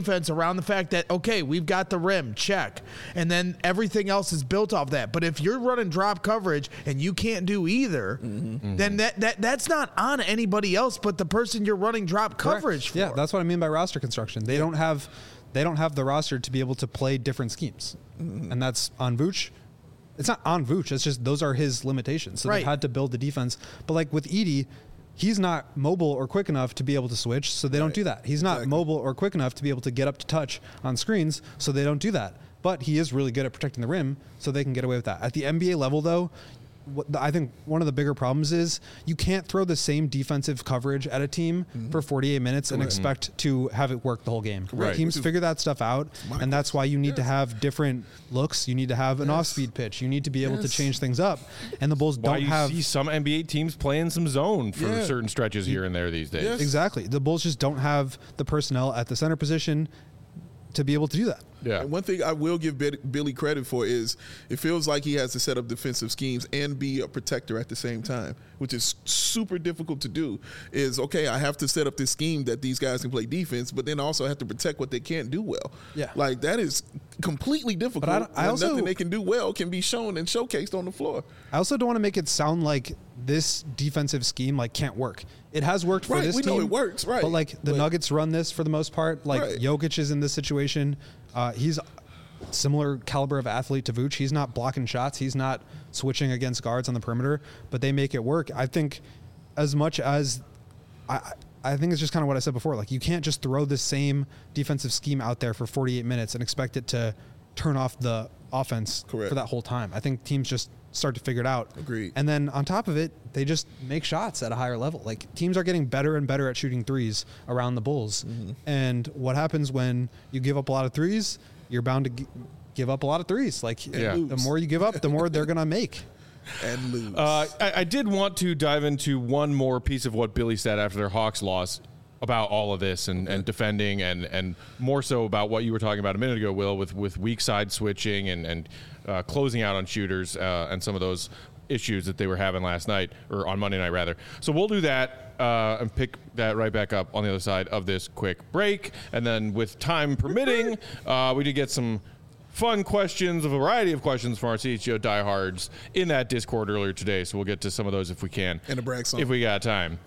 defense around the fact that, okay, we've got the rim, check. And then everything else is built off that. But if you're running drop coverage and you can't do either, mm-hmm. then that, that that's not on anybody else but the person you're running drop Correct. coverage for. Yeah, that's what I mean by roster construction. They don't have they don't have the roster to be able to play different schemes. Mm-hmm. And that's on Vooch. It's not on Vooch. It's just those are his limitations. So right. they've had to build the defense. But like with Edey, he's not mobile or quick enough to be able to switch, so they right. don't do that. He's not exactly. mobile or quick enough to be able to get up to touch on screens, so they don't do that. But he is really good at protecting the rim, so they can get away with that. At the N B A level, though, what the, I think one of the bigger problems is you can't throw the same defensive coverage at a team mm-hmm. for forty-eight minutes Correct. and expect mm-hmm. to have it work the whole game. Right. Teams figure that stuff out, and that's why you need yes. to have different looks. You need to have an yes. off-speed pitch. You need to be able yes. to change things up. And the Bulls why don't you have. see some N B A teams playing some zone for yeah. certain stretches here and there these days. Yes. Exactly. The Bulls just don't have the personnel at the center position to be able to do that. Yeah. And one thing I will give Billy credit for is it feels like he has to set up defensive schemes and be a protector at the same time, which is super difficult to do. Is, okay, I have to set up this scheme that these guys can play defense, but then also have to protect what they can't do well. Yeah. Like, that is completely difficult. But I don't- I also- nothing they can do well can be shown and showcased on the floor. I also don't want to make it sound like this defensive scheme like can't work. It has worked for Right, this we team. know it works, right. But like the But- Nuggets run this for the most part. Like Right. Jokic is in this situation. Uh, he's similar caliber of athlete to Vooch. He's not blocking shots. He's not switching against guards on the perimeter, but they make it work. I think as much as I, I think it's just kind of what I said before. Like you can't just throw the same defensive scheme out there for forty-eight minutes and expect it to turn off the offense Correct. for that whole time. I think teams just start to figure it out. Agreed. And then on top of it, they just make shots at a higher level. Like teams are getting better and better at shooting threes around the Bulls. Mm-hmm. And what happens when you give up a lot of threes? You're bound to g- give up a lot of threes. Like Yeah. the more you give up, the more they're going to make. And lose. Uh, I, I did want to dive into one more piece of what Billy said after their Hawks loss about all of this and, and defending and, and more so about what you were talking about a minute ago, Will, with, with weak side switching and, and uh, closing out on shooters uh, and some of those issues that they were having last night, or on Monday night rather. So we'll do that uh, and pick that right back up on the other side of this quick break. And then with time permitting, uh, we did get some fun questions, a variety of questions from our C H G O diehards in that Discord earlier today. So we'll get to some of those if we can. And a brag song. If we got time.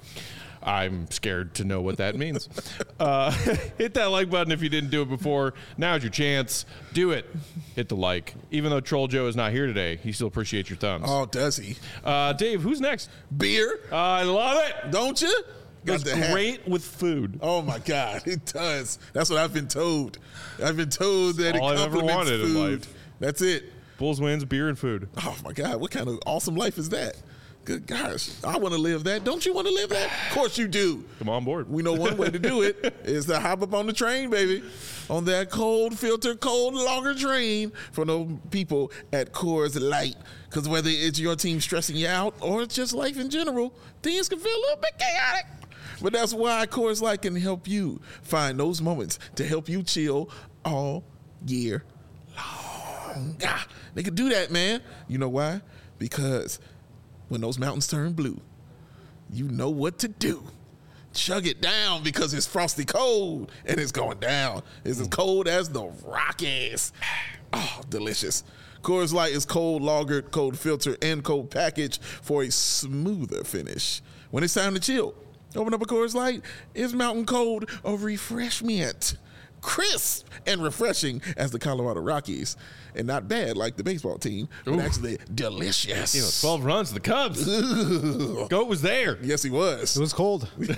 I'm scared to know what that means. uh, hit that like button if you didn't do it before. Now's your chance. Do it. Hit the like. Even though Troll Joe is not here today, he still appreciates your thumbs. Oh, does he? Uh, Dave, who's next? Beer? Uh, I love it. Don't you? It's the hat. great with food. Oh my God, it does. That's what I've been told. I've been told that all it I've ever complements wanted in food. life. That's it. Bulls wins, beer and food. Oh my God, what kind of awesome life is that? Good gosh, I want to live that. Don't you want to live that? Of course you do. Come on board. We know one way to do it is to hop up on the train, baby. On that cold filter, cold lager train for those people at Coors Light. Because whether it's your team stressing you out or it's just life in general, things can feel a little bit chaotic. But that's why Coors Light can help you find those moments to help you chill all year long. Ah, they can do that, man. You know why? Because when those mountains turn blue, you know what to do. Chug it down because it's frosty cold and it's going down. It's as cold as the Rockies. Oh, delicious. Coors Light is cold lagered, cold filtered, and cold packaged for a smoother finish. When it's time to chill, open up a Coors Light. It's mountain cold of refreshment. Crisp and refreshing as the Colorado Rockies. And not bad like the baseball team, but Ooh. actually delicious. You know, twelve runs to the Cubs. Goat was there. Yes, he was. It was cold. When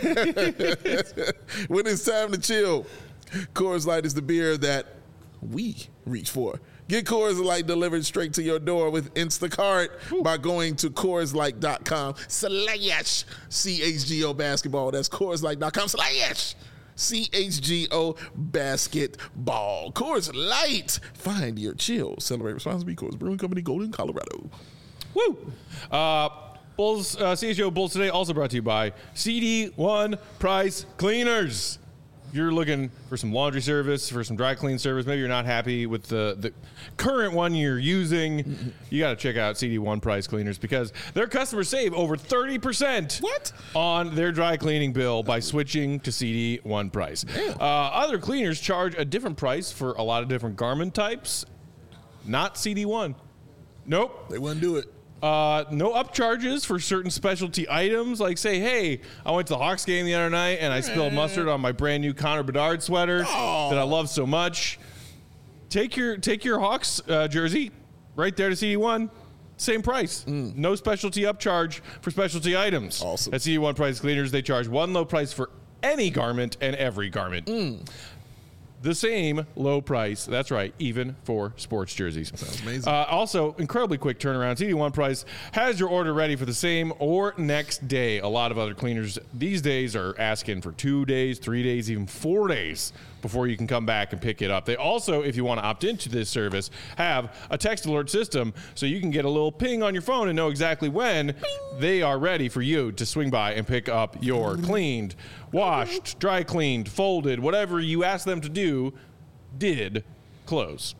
it's time to chill, Coors Light is the beer that we reach for. Get Coors Light delivered straight to your door with Instacart Ooh. by going to Coors Light dot com slash C H G O basketball. That's Coors Light dot com slash C H G O basketball. Coors Light. Find your chill. Celebrate responsibly. Coors Brewing Company, Golden, Colorado. Woo! Uh, Bulls, uh, C H G O Bulls Today also brought to you by C D one Price Cleaners. if you're looking for some laundry service, for some dry clean service, maybe you're not happy with the, the current one you're using, you got to check out C D one Price Cleaners because their customers save over thirty percent What? on their dry cleaning bill by switching to C D one Price. Uh, other cleaners charge a different price for a lot of different garment types, not C D one. Nope. They wouldn't do it. Uh, no upcharges for certain specialty items, like say, hey, I went to the Hawks game the other night and I spilled mustard on my brand new Connor Bedard sweater Oh. that I love so much. Take your take your Hawks uh, jersey right there to C D one. Same price. No specialty upcharge for specialty items. Awesome. At C D one Price Cleaners, they charge one low price for any garment and every garment. The same low price. That's right, even for sports jerseys. Sounds amazing. Uh, also, incredibly quick turnaround. C D one Price has your order ready for the same or next day. A lot of other cleaners these days are asking for two days, three days, even four days before you can come back and pick it up. They also, if you want to opt into this service, have a text alert system so you can get a little ping on your phone and know exactly when they are ready for you to swing by and pick up your cleaned, washed, dry cleaned, folded, whatever you ask them to do, did clothes.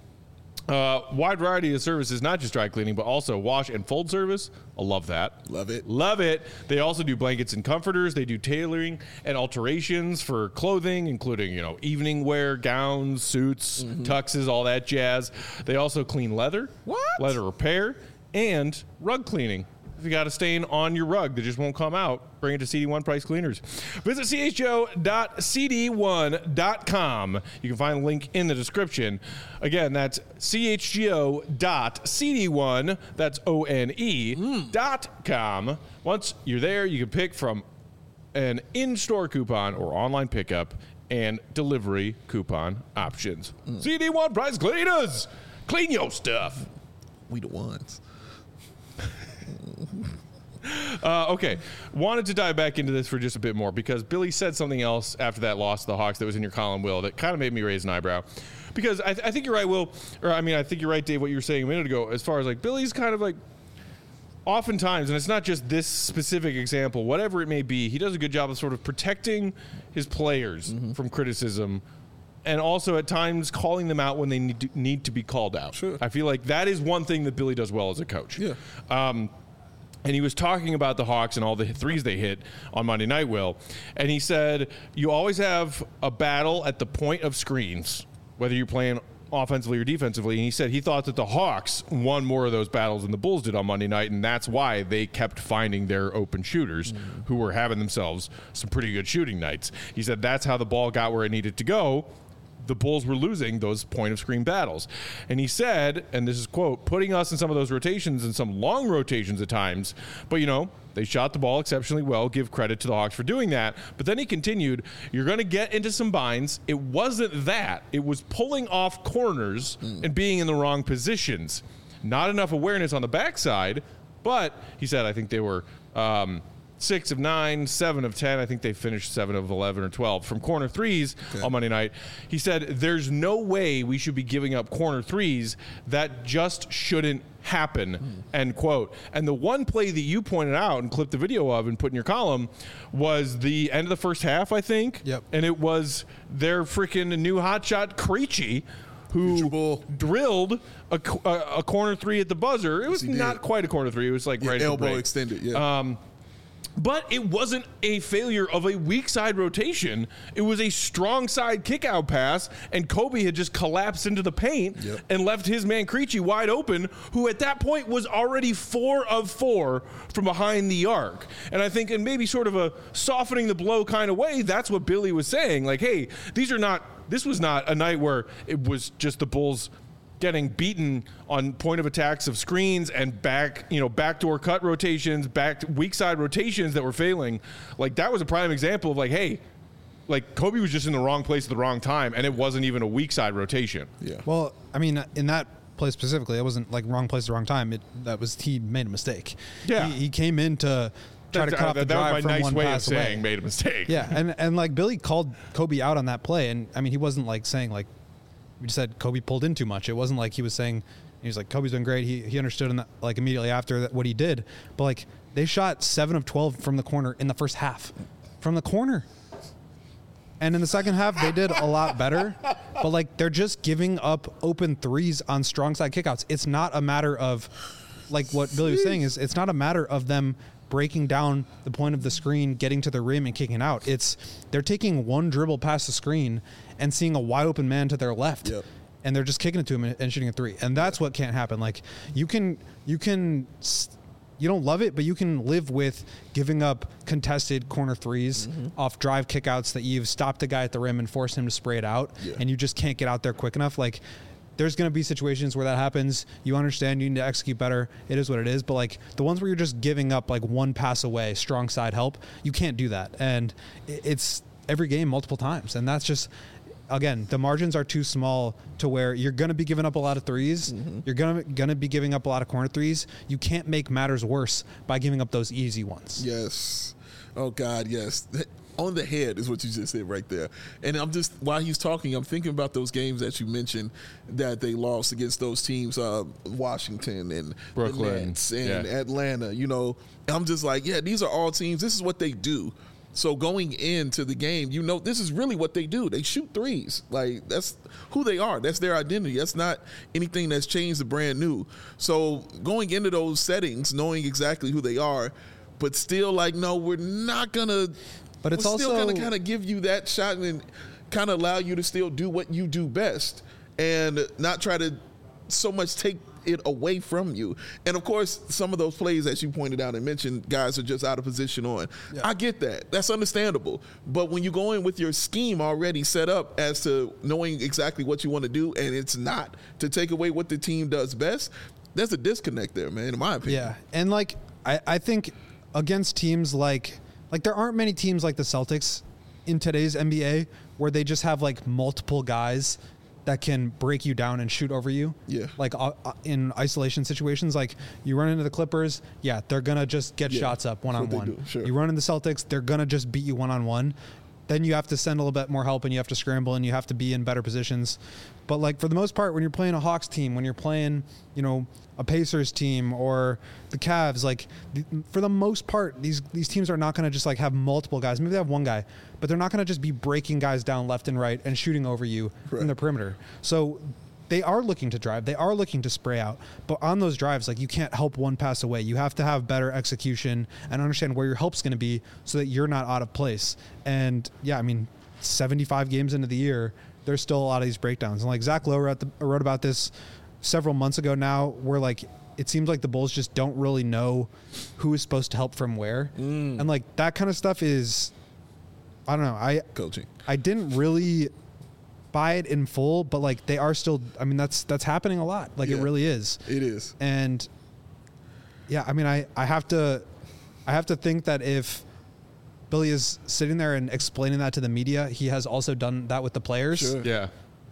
Uh, wide variety of services, not just dry cleaning, but also wash and fold service. I love that. Love it. Love it. They also do blankets and comforters. They do tailoring and alterations for clothing, including, you know, evening wear, gowns, suits, tuxes, all that jazz. They also clean leather, What? leather repair, and rug cleaning. If you got a stain on your rug that just won't come out, bring it to C D one Price Cleaners. Visit C H O dot C D one dot com. You can find a link in the description. Again, that's C H G O dot C D one, that's O N E, dot com. Once you're there, you can pick from an in-store coupon or online pickup and delivery coupon options. C D one Price Cleaners. Clean your stuff. We the ones. Uh, okay, wanted to dive back into this for just a bit more because Billy said something else after that loss to the Hawks that was in your column, Will, that kind of made me raise an eyebrow. Because I, th- I think you're right, Will, or I mean, I think you're right, Dave, what you were saying a minute ago, as far as like Billy's kind of like, oftentimes, and it's not just this specific example, whatever it may be, he does a good job of sort of protecting his players from criticism. And also at times calling them out when they need to, need to be called out. Sure. I feel like that is one thing that Billy does well as a coach. Yeah. Um, and he was talking about the Hawks and all the threes they hit on Monday night, Will. And he said, you always have a battle at the point of screens, whether you're playing offensively or defensively. And he said he thought that the Hawks won more of those battles than the Bulls did on Monday night, and that's why they kept finding their open shooters mm-hmm. who were having themselves some pretty good shooting nights. He said that's how the ball got where it needed to go. The Bulls were losing those point of screen battles. And he said, and this is quote, putting us in some of those rotations and some long rotations at times, but you know, they shot the ball exceptionally well. Give credit to the Hawks for doing that. But then he continued, you're going to get into some binds. It wasn't that. It was pulling off corners mm. and being in the wrong positions. Not enough awareness on the backside, but he said, I think they were um, six of nine, seven of ten. I think they finished seven of eleven or twelve from corner threes okay. on Monday night. He said, there's no way we should be giving up corner threes. That just shouldn't happen, mm. end quote. And the one play that you pointed out and clipped the video of and put in your column was the end of the first half, I think. Yep. And it was their freaking new hotshot Krejci, who drilled a, a, a corner three at the buzzer. It was yes, not quite a corner three. It was like yeah, right elbow at the break. extended, yeah. Um, But it wasn't a failure of a weak side rotation. It was a strong side kick out pass, and Kobe had just collapsed into the paint yep. and left his man Krejci wide open, who at that point was already four of four from behind the arc. And I think in maybe sort of a softening the blow kind of way, that's what Billy was saying. Like, hey, these are not, this was not a night where it was just the Bulls getting beaten on point of attacks of screens and back, you know, backdoor cut rotations, back weak side rotations that were failing. Like, that was a prime example of like, hey, like Kobe was just in the wrong place at the wrong time, and it wasn't even a weak side rotation. Yeah. Well, I mean, in that play specifically, it wasn't like wrong place at the wrong time. It that was he made a mistake. Yeah. He, he came in to try That's, to cut uh, off the that drive was from my nice one way pass of away. saying made a mistake. Yeah, and and like Billy called Kobe out on that play, and I mean, he wasn't like saying like. We just said Kobe pulled in too much. It wasn't like he was saying, he was like, Kobe's doing great. He he understood in that, like immediately after that, what he did. But like they shot seven of twelve from the corner in the first half. From the corner. And in the second half, they did a lot better. But, like, they're just giving up open threes on strong side kickouts. It's not a matter of, like what Billy was saying, is it's not a matter of them breaking down the point of the screen, getting to the rim and kicking out. It's they're taking one dribble past the screen and seeing a wide open man to their left. Yep. And they're just kicking it to him and, and shooting a three. And that's what can't happen. Like, you can, you can, you don't love it, but you can live with giving up contested corner threes mm-hmm. off drive kickouts that you've stopped the guy at the rim and forced him to spray it out, yeah. and you just can't get out there quick enough. Like, there's going to be situations where that happens. You understand you need to execute better. It is what it is. But, like, the ones where you're just giving up, like, one pass away, strong side help, you can't do that. And it's every game multiple times. And that's just, again, the margins are too small to where you're going to be giving up a lot of threes. Mm-hmm. You're going to going to be giving up a lot of corner threes. You can't make matters worse by giving up those easy ones. Yes. Oh, God, yes. On the head is what you just said right there. And I'm just, while he's talking, I'm thinking about those games that you mentioned that they lost against those teams, uh, Washington and Brooklyn the Nets and yeah. Atlanta, you know. I'm just like, yeah, these are all teams. This is what they do. So going into the game, you know, this is really what they do. They shoot threes. Like, that's who they are. That's their identity. That's not anything that's changed the brand new. So going into those settings, knowing exactly who they are, but still like, no, we're not going to – But it's we're also still going to kind of give you that shot and kind of allow you to still do what you do best and not try to so much take it away from you. And, of course, some of those plays that you pointed out and mentioned, guys are just out of position on. Yeah. I get that. That's understandable. But when you go in with your scheme already set up as to knowing exactly what you want to do and it's not to take away what the team does best, there's a disconnect there, man, in my opinion. Yeah, and, like, I, I think against teams like – Like, there aren't many teams like the Celtics in today's N B A where they just have, like, multiple guys that can break you down and shoot over you. Yeah. Like, uh, in isolation situations, like, you run into the Clippers, yeah, they're going to just get yeah. shots up one-on-one. Sure. You run into the Celtics, they're going to just beat you one-on-one. Then you have to send a little bit more help and you have to scramble and you have to be in better positions. But, like, for the most part, when you're playing a Hawks team, when you're playing, you know, a Pacers team or the Cavs, like, the, for the most part, these these teams are not going to just, like, have multiple guys. Maybe they have one guy, but they're not going to just be breaking guys down left and right and shooting over you right. from the perimeter. So they are looking to drive. They are looking to spray out. But on those drives, like, you can't help one pass away. You have to have better execution and understand where your help's going to be so that you're not out of place. And, yeah, I mean, seventy-five games into the year, there's still a lot of these breakdowns. And, like, Zach Lowe wrote, the, wrote about this several months ago now, where, like, it seems like the Bulls just don't really know who is supposed to help from where. Mm. And, like, that kind of stuff is, I don't know. I Coaching. I didn't really buy it in full, but, like, they are still, I mean, that's that's happening a lot. Like, yeah, it really is. It is. And, yeah, I mean, I, I have to I have to think that if Billy is sitting there and explaining that to the media, he has also done that with the players. Sure. Yeah.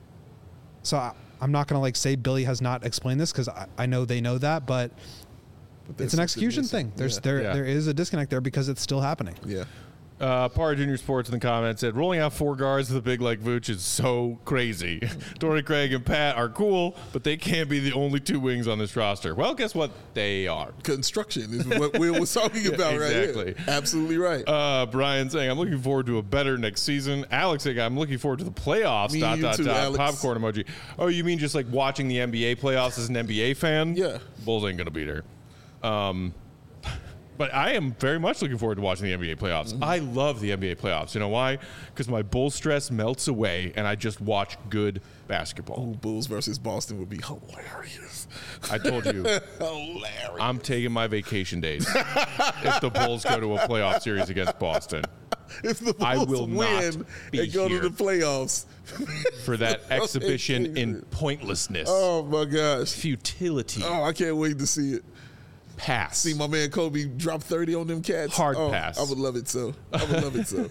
So I, I'm not going to, like, say Billy has not explained this because I, I know they know that, but, but it's an execution thing. There's yeah. there yeah. there is a disconnect there because it's still happening. Yeah. Uh, Par Junior Sports in the comments said, rolling out four guards with a big like Vooch is so crazy. Torrey Craig and Pat are cool, but they can't be the only two wings on this roster. Well, guess what? They are. Construction is what Will was talking about yeah, exactly. right here. Absolutely right. Uh, Brian saying, I'm looking forward to a better next season. Alex saying, I'm looking forward to the playoffs. Me dot, dot, too, dot. Alex. Popcorn emoji. Oh, you mean just like watching the N B A playoffs as an N B A fan? Yeah. Bulls ain't going to beat her. Um, But I am very much looking forward to watching the N B A playoffs. Mm-hmm. I love the N B A playoffs. You know why? Because my Bull stress melts away, and I just watch good basketball. Ooh, Bulls versus Boston would be hilarious. I told you. Hilarious. I'm taking my vacation days if the Bulls go to a playoff series against Boston. If the Bulls I will win not be and go here to the playoffs. For that exhibition in pointlessness. Oh, my gosh. Futility. Oh, I can't wait to see it. Pass. See my man Kobe drop thirty on them cats. Hard oh, pass. I would love it so. I would love it so.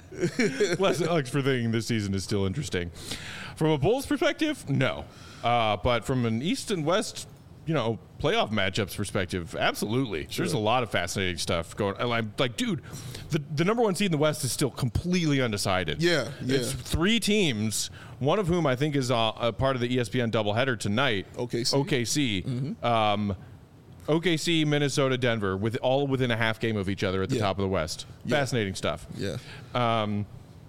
Bless Alex for thinking this season is still interesting. From a Bulls perspective, no. Uh, but from an East and West, you know, playoff matchups perspective, absolutely. Sure. There's a lot of fascinating stuff going on. I'm like, dude, the, the number one seed in the West is still completely undecided. Yeah, yeah. It's three teams, one of whom I think is uh, a part of the E S P N doubleheader tonight. O K C. O K C. Mm-hmm. Um, O K C, Minnesota, Denver, with all within a half game of each other at the yeah. top of the West. Yeah. Fascinating stuff. Yeah. Um,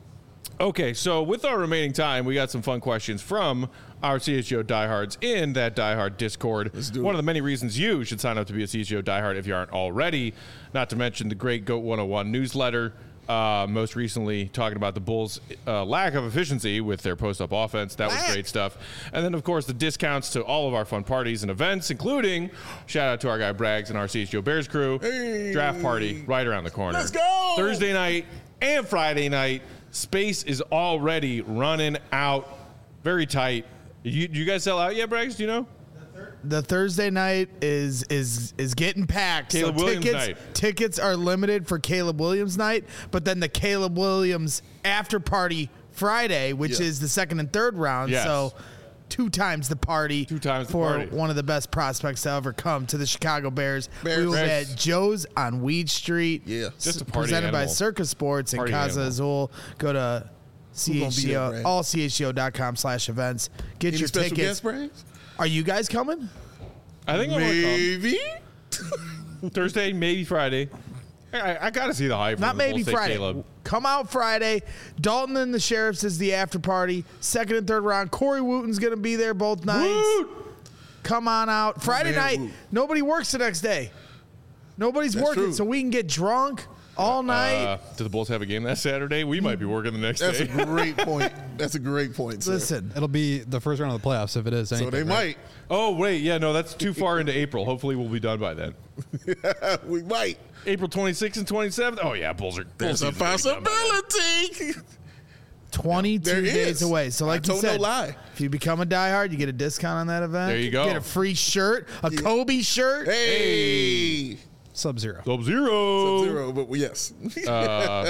Okay, so with our remaining time, we got some fun questions from our C H G O diehards in that diehard Discord. Let's do One it. of the many reasons you should sign up to be a C H G O diehard if you aren't already, not to mention the great GOAT one oh one newsletter. Uh, most recently, talking about the Bulls' uh, lack of efficiency with their post-up offense. That was great stuff. And then, of course, the discounts to all of our fun parties and events, including shout out to our guy Braggs and our C H G O Bears crew. Hey. Draft party right around the corner. Let's go! Thursday night and Friday night. Space is already running out. Very tight. You, you guys sell out yet, Braggs? Do you know? The Thursday night is is is getting packed. Caleb so Williams tickets, night. Tickets are limited for Caleb Williams night, but then the Caleb Williams after party Friday, which Yeah. is the second and third round. Yes. So two times the party. Two times the for party. one of the best prospects to ever come to the Chicago Bears. Bears. We will be Bears. at Joe's on Weed Street. Yeah. Just a party presented by animal. Circus Sports and Party Casa animal. Azul. Go to Who gonna be there, CHGO, Brad? all C H G O dot com slash events. Get Any your special tickets. guest brands? Are you guys coming? I think I want to Maybe. come. Thursday, maybe Friday. I, I got to see the hype. Not from the maybe Bulls say Friday. Caleb. Come out Friday. Dalton and the Sheriffs is the after party. Second and third round. Corey Wooten's going to be there both nights. Woot! Come on out. Friday man, night, Woot. nobody works the next day. Nobody's That's working, true. so we can get drunk all night. Uh, do the Bulls have a game that Saturday? We might be working the next That's day. a great point. That's a great point, sir. Listen, It'll be the first round of the playoffs if it is. So Anything, they right? might. Oh, wait. Yeah, no, that's too far into April. Hopefully we'll be done by then. We might. April twenty-sixth and twenty-seventh. Oh, yeah, Bulls are Bulls There's a season's gonna be done by then. possibility. twenty-two There days is. away. So, like I you told no said, lie. if you become a diehard, you get a discount on that event. There you go. Get a free shirt, a Kobe shirt. Hey. Sub zero. Sub-Zero. Zero, but yes. Uh,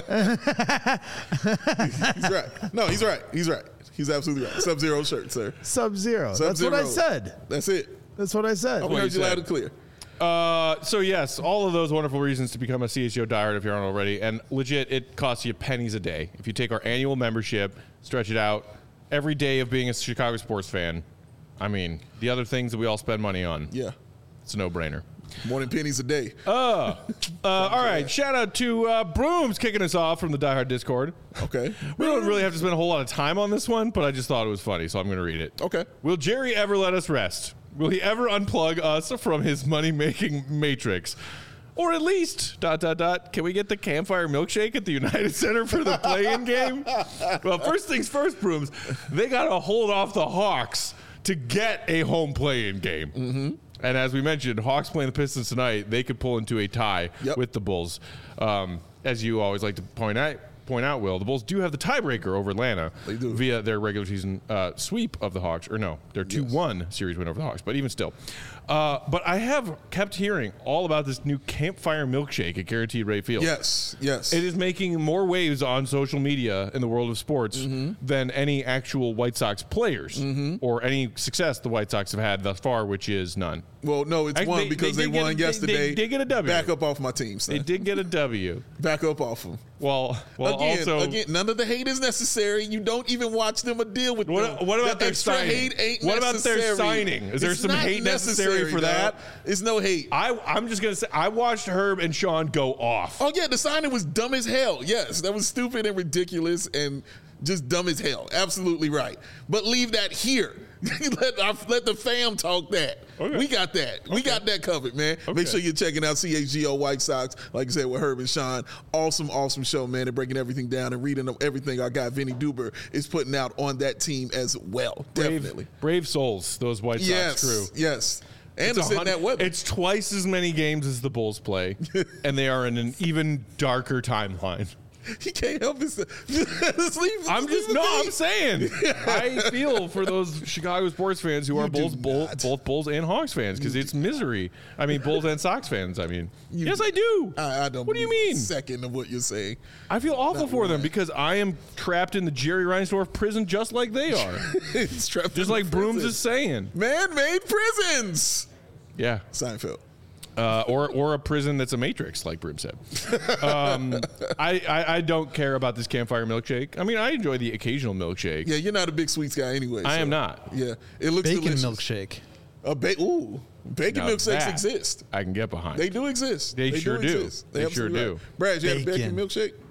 he's right. No, he's right. He's right. He's absolutely right. Sub zero shirt, sir. Sub zero. That's what Sub-Zero. I said. That's it. That's what I said. I what heard you you said. loud and clear. Uh, so yes, all of those wonderful reasons to become a C H G O diehard if you aren't already, and legit, it costs you pennies a day if you take our annual membership, stretch it out, every day of being a Chicago sports fan. I mean, the other things that we all spend money on, Yeah. it's a no-brainer. More than pennies a day. Uh, all right, shout out to uh, Brooms kicking us off from the diehard Discord. Okay. We don't really have to spend a whole lot of time on this one, but I just thought it was funny, so I'm going to read it. Okay. Will Jerry ever let us rest? Will he ever unplug us from his money-making matrix? Or at least, dot, dot, dot, can we get the campfire milkshake at the United Center for the play-in game? Well, first things first, Brooms, they got to hold off the Hawks to get a home play-in game. Mm-hmm. And as we mentioned, Hawks playing the Pistons tonight, they could pull into a tie Yep. with the Bulls. Um, as you always like to point out, point out, Will, the Bulls do have the tiebreaker over Atlanta They do. via their regular season uh, sweep of the Hawks, or no, their two one series win over the Hawks, but even still. Uh, but I have kept hearing all about this new campfire milkshake at Guaranteed Rate Field. Yes. Yes. It is making more waves on social media in the world of sports Mm-hmm. than any actual White Sox players or any success the White Sox have had thus far, which is none. Well, no, it's Actually, one they- because they they, did get won a- they- yesterday. they did get a W. Back up off my team, son. They did get a W. Back up off them. Well, well, again, also again, none of the hate is necessary. You don't even watch them or deal with What, them. what about That their extra signing? hate ain't What about their necessary. signing? Is there It's some not hate necessary for dog. that? It's no hate. I, I'm just gonna say I watched Herb and Sean go off. Oh yeah, the signing was dumb as hell. Yes, that was stupid and ridiculous and just dumb as hell. Absolutely right. But leave that here. let our, let the fam talk that. Okay. We got that. We got that covered, man. Okay. Make sure you're checking out C H G O White Sox, like I said, with Herb and Sean. Awesome, awesome show, man. They're breaking everything down and reading everything our guy Vinny Duber is putting out on that team as well. Definitely. Brave, brave souls, those White Sox Yes. crew. Yes. And It's, it's a in hun- that weather. it's twice as many games as the Bulls play, and they are in an even darker timeline. He can't help himself. Just leave- I'm leave just it no. be. I'm saying I feel for those Chicago sports fans who are You do Bulls, Bull, not. both Bulls and Hawks fans because it's misery. I mean, Bulls and Sox fans. I mean, You yes, do. I do. I, I don't What do you believe a mean? second of what you're saying. I feel awful Not for them one. because I am trapped in the Jerry Reinsdorf prison just like they are. It's trapped just in like prison. Brooms is saying. Man-made prisons. Yeah. Seinfeld. Uh, or or a prison that's a matrix, like Broom said. Um, I, I I don't care about this campfire milkshake. I mean, I enjoy the occasional milkshake. Yeah, you're not a big sweets guy anyway. I so, am not. Yeah, it looks Bacon delicious. milkshake. A ba- ooh, bacon Now milkshakes that exist. I can get behind. They do exist. They sure do. exist. They sure absolutely do. right. Brad, you had a bacon Bacon. milkshake?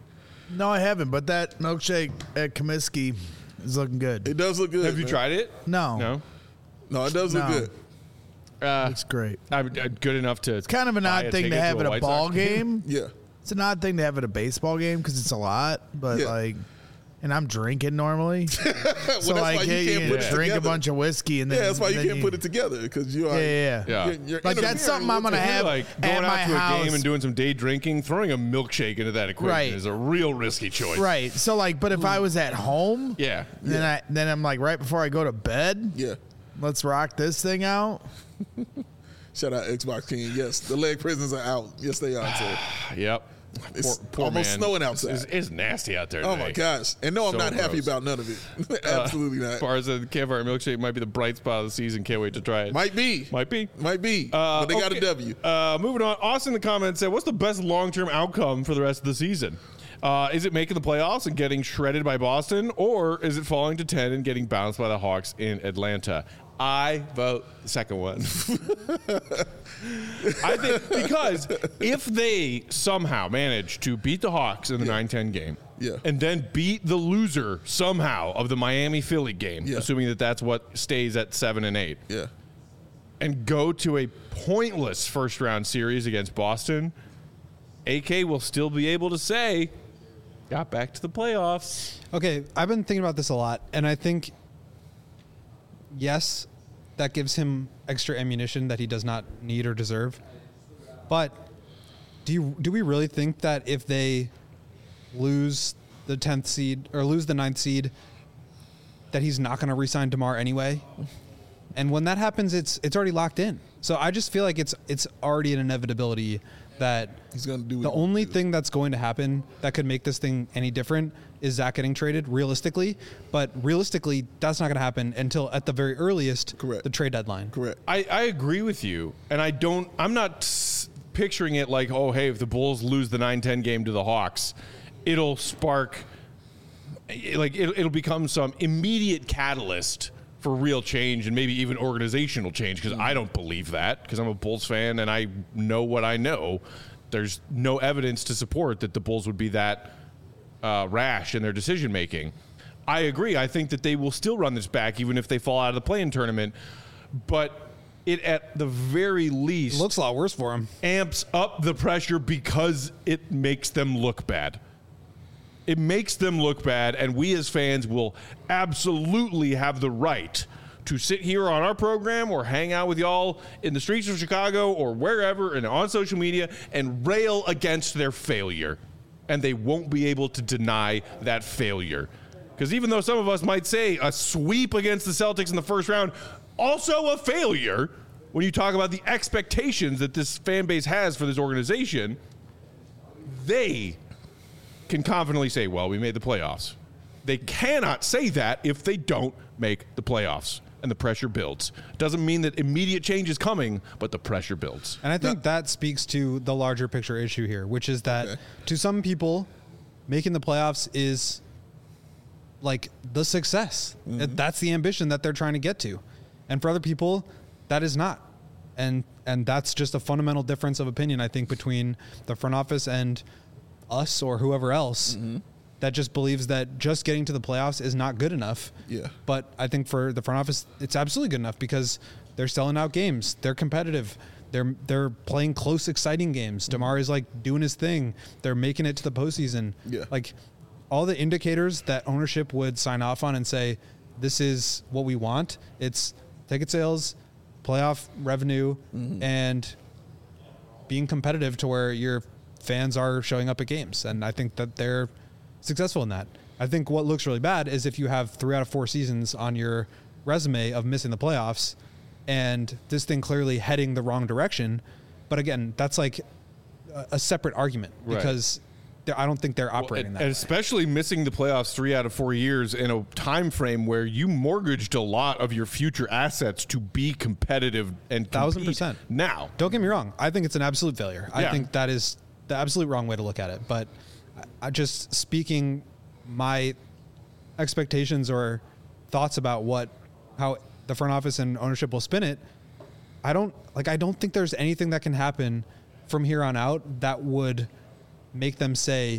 No, I haven't. But that milkshake at Comiskey is looking good. It does look good. Have you man. tried it? No, No. No, it does look No. good. Uh, it's great. I'm, uh, good enough to. It's kind of an odd thing to have at a ball game. Yeah. It's an odd thing to have at a baseball game because it's a lot, but Yeah. like, and I'm drinking normally, well, so that's like, why you hey, can't you put it drink together. a bunch of whiskey and then Yeah, that's why you then can't put it together because you are. Yeah, yeah, Yeah. You're, you're Like, that's interfering something I'm with gonna the- have Like going at out my to a house. game and doing some day drinking, throwing a milkshake into that equation Right. is a real risky choice. Right. So like, but if I was at home, Yeah. then I then I'm like right before I go to bed, Yeah. let's rock this thing out. Shout out Xbox King. Yes, the leg prisons are out. Yes, they are. Too. Yep. It's Poor- poor almost man. snowing outside. It's, it's, it's nasty out there. Oh today. my gosh! And no, I'm So not happy gross. about none of it. Absolutely As not. far as the campfire milkshake might be the bright spot of the season. Can't wait to try it. Might be. Might be. Might be. Uh, but they got okay. a W. Uh, moving on. Austin in the comments said, what's the best long-term outcome for the rest of the season? Uh, is it making the playoffs and getting shredded by Boston, or is it falling to ten and getting bounced by the Hawks in Atlanta? I vote the second one. I think because if they somehow manage to beat the Hawks in the nine ten game, Yeah. and then beat the loser somehow of the Miami Philly game, Yeah. assuming that that's what stays at seven and eight, Yeah. and go to a pointless first round series against Boston, A K will still be able to say, got back to the playoffs. Okay, I've been thinking about this a lot, and I think, yes, that gives him extra ammunition that he does not need or deserve. But do you do we really think that if they lose the tenth seed or lose the ninth seed, that he's not going to re-sign DeMar anyway? And when that happens, it's it's already locked in. So I just feel like it's it's already an inevitability that He's gonna do the what- only thing that's going to happen that could make this thing any different is Zach getting traded realistically. But realistically, that's not going to happen until at the very earliest, Correct. the trade deadline. Correct. I, I agree with you, and I don't. I'm not s- picturing it like, oh, hey, if the Bulls lose the nine ten game to the Hawks, it'll spark, like, it'll, it'll become some immediate catalyst for real change and maybe even organizational change. Because I don't believe that. Because I'm a Bulls fan and I know what I know. There's no evidence to support that the Bulls would be that uh, rash in their decision making. I agree. I think that they will still run this back even if they fall out of the play-in tournament. But it, at the very least, Looks a lot worse for him. amps up the pressure because it makes them look bad. It makes them look bad, and we as fans will absolutely have the right to sit here on our program or hang out with y'all in the streets of Chicago or wherever and on social media and rail against their failure. And they won't be able to deny that failure. Because even though some of us might say a sweep against the Celtics in the first round, also a failure, when you talk about the expectations that this fan base has for this organization, they can confidently say, well, we made the playoffs. They cannot say that if they don't make the playoffs, and the pressure builds. Doesn't mean that immediate change is coming, but the pressure builds. And I think that speaks to the larger picture issue here, which is that Okay. to some people, making the playoffs is like the success. Mm-hmm. That's the ambition that they're trying to get to. And for other people, that is not. And and that's just a fundamental difference of opinion, I think, between the front office and us or whoever else Mm-hmm. that just believes that just getting to the playoffs is not good enough. Yeah. But I think for the front office, it's absolutely good enough because they're selling out games. They're competitive. They're they're playing close, exciting games. DeMar is like doing his thing. They're making it to the postseason. Yeah. Like all the indicators that ownership would sign off on and say, this is what we want. It's ticket sales, playoff revenue, and being competitive to where your fans are showing up at games. And I think that they're successful in that. I think what looks really bad is if you have three out of four seasons on your resume of missing the playoffs and this thing clearly heading the wrong direction. But again, that's like a, a separate argument Right. because they're- I don't think they're operating and, that and way. especially missing the playoffs three out of four years in a time frame where you mortgaged a lot of your future assets to be competitive and Thousand compete percent. now. Don't get me wrong. I think it's an absolute failure. I Yeah. think that is the absolute wrong way to look at it. But I, I just speaking my expectations or thoughts about what how the front office and ownership will spin it. I don't like. I don't think there's anything that can happen from here on out that would make them say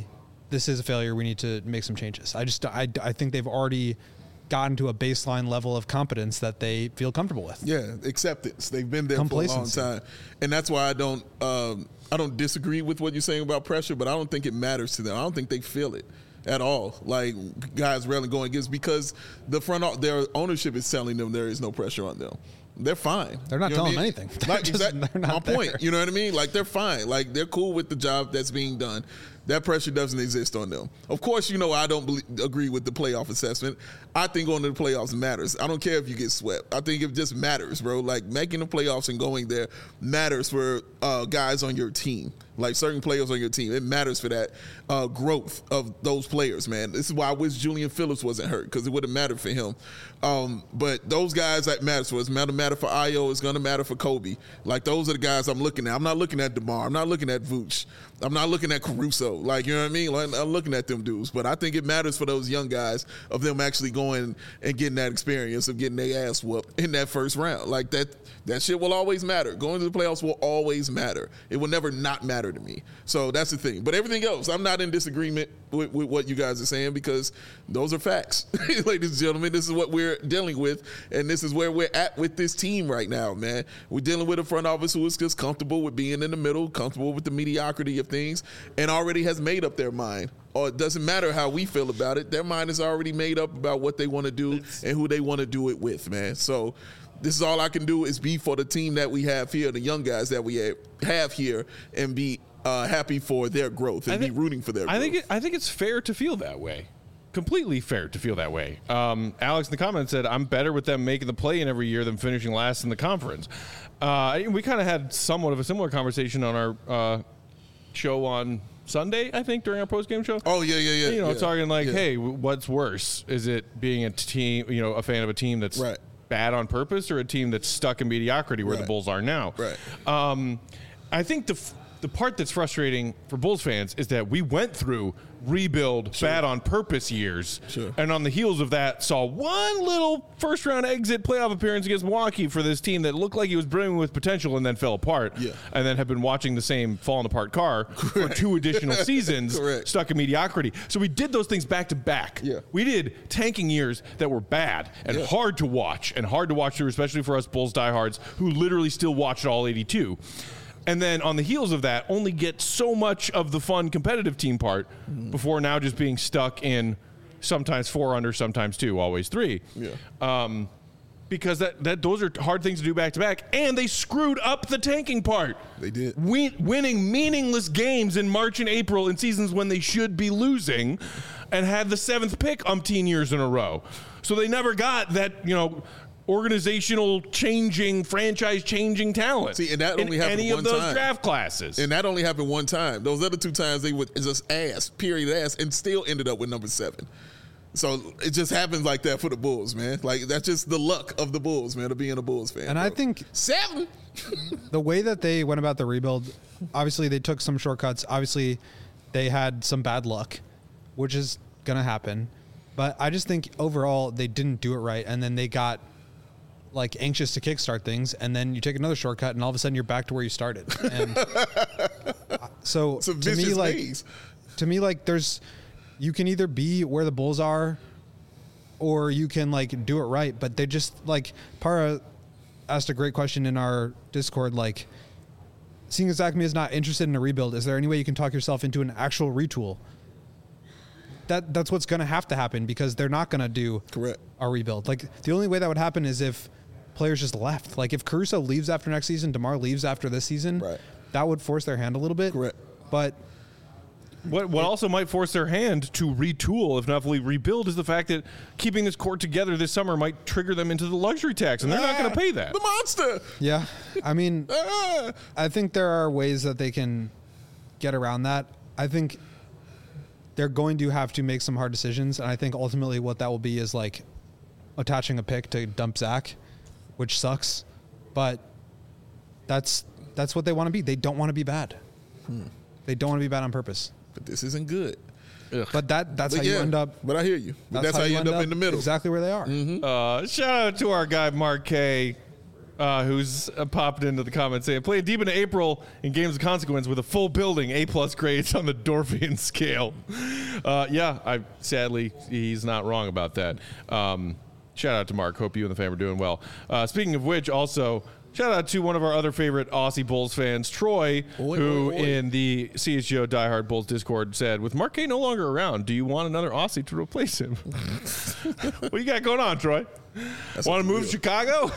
this is a failure. We need to make some changes. I just I, I think they've already gotten to a baseline level of competence that they feel comfortable with. Yeah, acceptance. They've been there for a long time, and that's why I don't um, I don't disagree with what you're saying about pressure, but I don't think it matters to them. I don't think they feel it at all. Like guys rarely going against because the front their ownership is telling them there is no pressure on them. They're fine. They're not you know telling I mean? anything. Like, just, exactly, my there. point. You know what I mean? Like they're fine. Like they're cool with the job that's being done. That pressure doesn't exist on them. Of course, you know I don't believe, agree with the playoff assessment. I think going to the playoffs matters. I don't care if you get swept. I think it just matters, bro. Like making the playoffs and going there matters for uh, guys on your team. Like certain players on your team. It matters for that uh, growth of those players, man. This is why I wish Julian Phillips wasn't hurt because it would have mattered for him. Um, but those guys that matters for. It's going to matter for Ayo. It's going to matter for Kobe. Like those are the guys I'm looking at. I'm not looking at DeMar. I'm not looking at Vooch. I'm not looking at Caruso. Like, you know what I mean? Like, I'm looking at them dudes. But I think it matters for those young guys of them actually going and getting that experience of getting their ass whooped in that first round. Like that that shit will always matter. Going to the playoffs will always matter. It will never not matter to me. So that's the thing. But everything else, I'm not in disagreement with, with what you guys are saying because those are facts. Ladies and gentlemen, this is what we're dealing with. And this is where we're at with this team right now, man. We're dealing with a front office who is just comfortable with being in the middle, comfortable with the mediocrity of things, and already has made up their mind. Or it doesn't matter how we feel about it. Their mind is already made up about what they want to do and who they want to do it with, man. So this is all I can do is be for the team that we have here, the young guys that we have here, and be uh, happy for their growth and think, be rooting for their I growth. think it, I think it's fair to feel that way. Completely fair to feel that way. Um, Alex in the comments said, I'm better with them making the play-in every year than finishing last in the conference. Uh, we kind of had somewhat of a similar conversation on our uh, show on Sunday, I think, during our post-game show. Oh, yeah, yeah, yeah. You know, yeah, talking like, yeah. hey, what's worse? Is it being a team, you know, a fan of a team that's right. bad on purpose or a team that's stuck in mediocrity where right. the Bulls are now? Right. Um, I think the f- the part that's frustrating for Bulls fans is that we went through rebuild, sure. bad on purpose years, sure. and on the heels of that saw one little first round exit playoff appearance against Milwaukee for this team that looked like it was brimming with potential and then fell apart, yeah. and then have been watching the same falling apart car Correct. for two additional seasons stuck in mediocrity. So we did those things back to back. Yeah. We did tanking years that were bad and yeah. hard to watch and hard to watch through, especially for us Bulls diehards who literally still watched all eighty-two. And then on the heels of that, only get so much of the fun competitive team part mm. before now just being stuck in sometimes four under, sometimes two, always three. Yeah. Um, because that, that those are hard things to do back to back, and they screwed up the tanking part. They did. Win, winning meaningless games in March and April in seasons when they should be losing, and had the seventh pick umpteen years in a row. So they never got that, you know, organizational changing, franchise changing talent. See, and that only in happened any one of those time. draft classes. And that only happened one time. Those other two times they would just ass, period ass, and still ended up with number seven. So it just happens like that for the Bulls, man. Like that's just the luck of the Bulls, man, of being a Bulls fan. And bro. I think seven. The way that they went about the rebuild, obviously they took some shortcuts. Obviously, they had some bad luck, which is gonna happen. But I just think overall they didn't do it right, and then they got like anxious to kickstart things, and then you take another shortcut, and all of a sudden you're back to where you started. And so It's a to me, vicious like maze. to me, like there's you can either be where the Bulls are, or you can like do it right. But they just like Para asked a great question in our Discord, like seeing as Acme is not interested in a rebuild, is there any way you can talk yourself into an actual retool? That that's what's going to have to happen because they're not going to do Correct. a rebuild. Like the only way that would happen is if players just left. Like if Caruso leaves after next season, DeMar leaves after this season, Right. that would force their hand a little bit. Correct. But What what also might force their hand to retool, if not fully rebuild, is the fact that keeping this court together this summer might trigger them into the luxury tax, and they're not going to pay that. The monster. yeah, I mean, Ah. I think there are ways that they can get around that. I think they're going to have to make some hard decisions, and I think ultimately what that will be is like attaching a pick to dump Zach, which sucks, but that's that's what they want to be. They don't want to be bad. Hmm. They don't want to be bad on purpose. But this isn't good. Ugh. But that that's But how yeah, you end up. But I hear you. But that's, how, you end up, in the middle. Exactly where they are. Mm-hmm. Uh, shout out to our guy Mark K. Uh, who's uh, popped into the comments saying, playing deep into April in games of consequence with a full building, A-plus grades on the Dorfian scale. Uh, yeah, I sadly, he's not wrong about that. Um, shout out to Mark. Hope you and the fam are doing well. Uh, speaking of which, also, shout out to one of our other favorite Aussie Bulls fans, Troy, Oy, who oy, oy. in the C H G O Diehard Bulls Discord said, with Mark K no longer around, do you want another Aussie to replace him? What you got going on, Troy? Want to move to Chicago?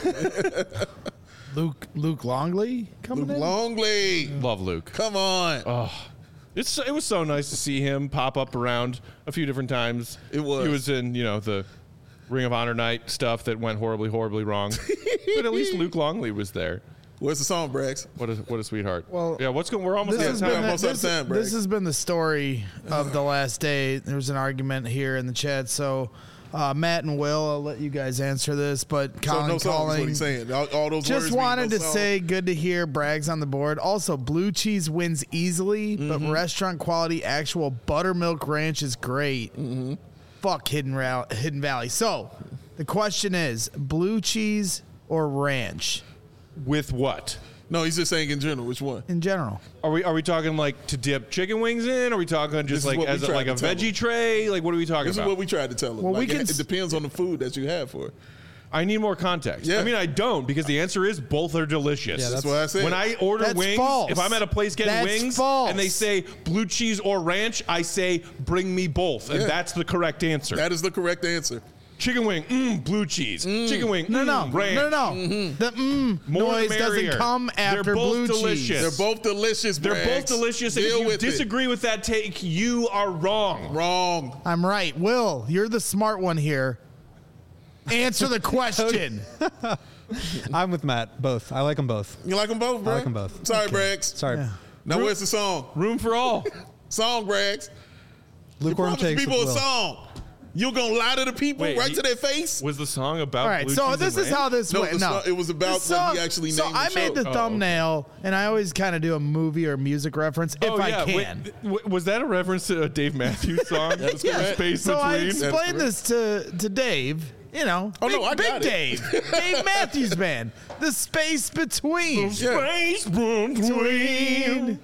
Luke Luke Longley coming Luke in. Longley. Love Luke. Come on. Oh, it's it was so nice to see him pop up around a few different times. It was. He was in, you know, the Ring of Honor night stuff that went horribly, horribly wrong. But at least Luke Longley was there. Where's the song, Brax? What a what a sweetheart. Well, yeah, what's going? We're almost This out has, of been time. the, Almost out of this, time, Bragg. this has been the story of the last day. There was an argument here in the chat, so uh, Matt and Will, I'll let you guys answer this. But So Colin no song is what calling, he's saying. All, all those just words wanted mean to no song. say, good to hear Bragg's on the board. Also, blue cheese wins easily, but restaurant quality actual buttermilk ranch is great. Fuck Hidden Ra- Hidden Valley. So the question is, blue cheese or ranch With what? No, he's just saying in general. Which one? in general? Are we are we talking like to dip chicken wings in? Are we talking This just is like what we as a, tried like to a tell veggie him. tray? Like what are we talking This about? is what we tried to tell him. Well, we Like, can it, s- it depends on the food that you have for it. I need more context. Yeah. I mean, I don't because the answer is both are delicious. Yeah, That's what I said. When I order That's wings, false. if I'm at a place getting That's wings false. and they say blue cheese or ranch, I say bring me both, and Yeah. that's the correct answer. That is the correct answer. Chicken wing, mm, blue cheese. Chicken wing, No, no, mm, ranch. no, no. The mm More noise the doesn't merrier. come after They're both blue delicious. cheese. They're both delicious. They're Braggs. both delicious. And Deal if you with disagree with that take, you are wrong. it. Wrong. I'm right. Will, you're the smart one here. Answer the question. I'm with Matt. Both. I like them both. You like them both, bro? I like 'em both. Sorry, Braggs. Sorry. Yeah. Now where's the song? Room for all. Song, Braggs. You Lukewarm promised takes people with a Will. song. You gonna lie to the people Wait, right he- to their face? Was the song about All right, blue so cheese this and is how ranch? this No, went. the No, song- it was about This when song- he actually So named the I made show. the Oh. thumbnail, and I always kind of do a movie or music reference if Oh, I yeah. Wait, can. th- w- was that a reference to a Dave Matthews song? That is The correct. Space So I between. explained this to, to Dave. You know, Oh, big, no, I big got it. Dave, Dave Matthews Band, the space between. Space between.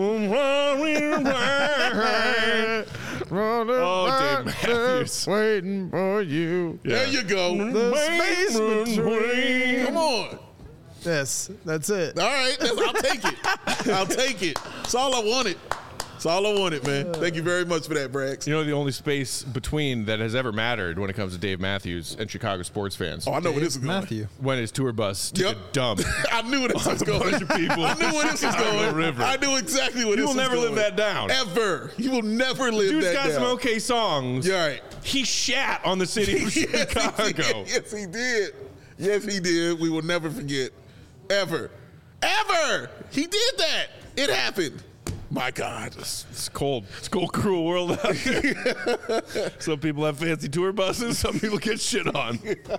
Oh, Dave Matthews. Waiting for you. There you go. The space between. Come on. Yes, that's it. All right, that's, I'll take it. I'll take it. That's all I wanted. That's all I wanted, man. Thank you very much for that, Braggs. You know, the only space between that has ever mattered when it comes to Dave Matthews and Chicago sports fans. Oh, I know where this is going. Matthew. When his tour bus took Yep. a dump. I knew where this was a going. bunch of people I knew where this was Chicago going. River. I knew exactly where You this will was never going. live that down. Ever. You will never live Dude's that got down. some okay songs. You're right. He shat on the city of Yes, he Chicago. did. Yes, he did. Yes, he did. We will never forget. Ever. Ever. He did that. It happened. My God. It's cold. It's a cold, cruel world out there. Some people have fancy tour buses. Some people get shit on.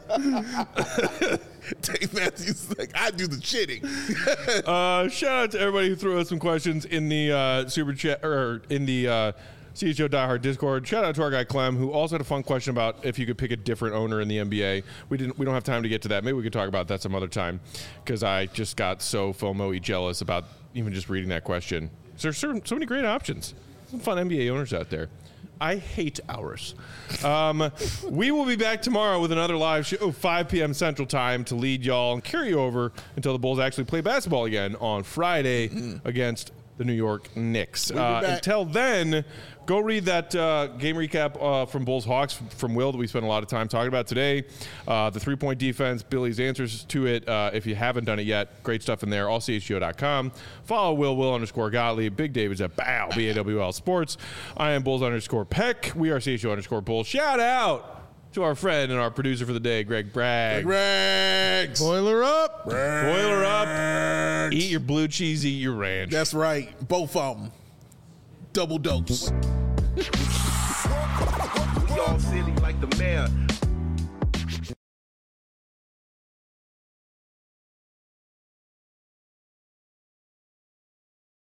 Dave Matthews is like, I do the shitting. Uh, shout out to everybody who threw us some questions in the uh, super chat or in the uh, C H O Diehard Discord. Shout out to our guy Clem, who also had a fun question about if you could pick a different owner in the N B A. We didn't. We don't have time to get to that. Maybe we could talk about that some other time because I just got so FOMO-y jealous about even just reading that question. There's so, so many great options. Some fun N B A owners out there. I hate ours. Um, we will be back tomorrow with another live show, five p.m. Central Time, to lead y'all and carry over until the Bulls actually play basketball again on Friday against the New York Knicks. be Uh, back. until then, go read that uh, game recap uh, from Bulls Hawks from Will that we spent a lot of time talking about today. Uh, the three-point defense, Billy's answers to it. Uh, if you haven't done it yet, great stuff in there. all C H G O dot com. Follow Will, Will underscore Gottlieb. Big David's at Bow, B A W L Sports. I am Bulls underscore Peck. We are C H G O underscore Bulls. Shout out to our friend and our producer for the day, Greg Bragg. Rags. Boiler up. Boiler up. Eat your blue cheese, eat your ranch. That's right. Both of them. Double dose. We all silly like the mayor.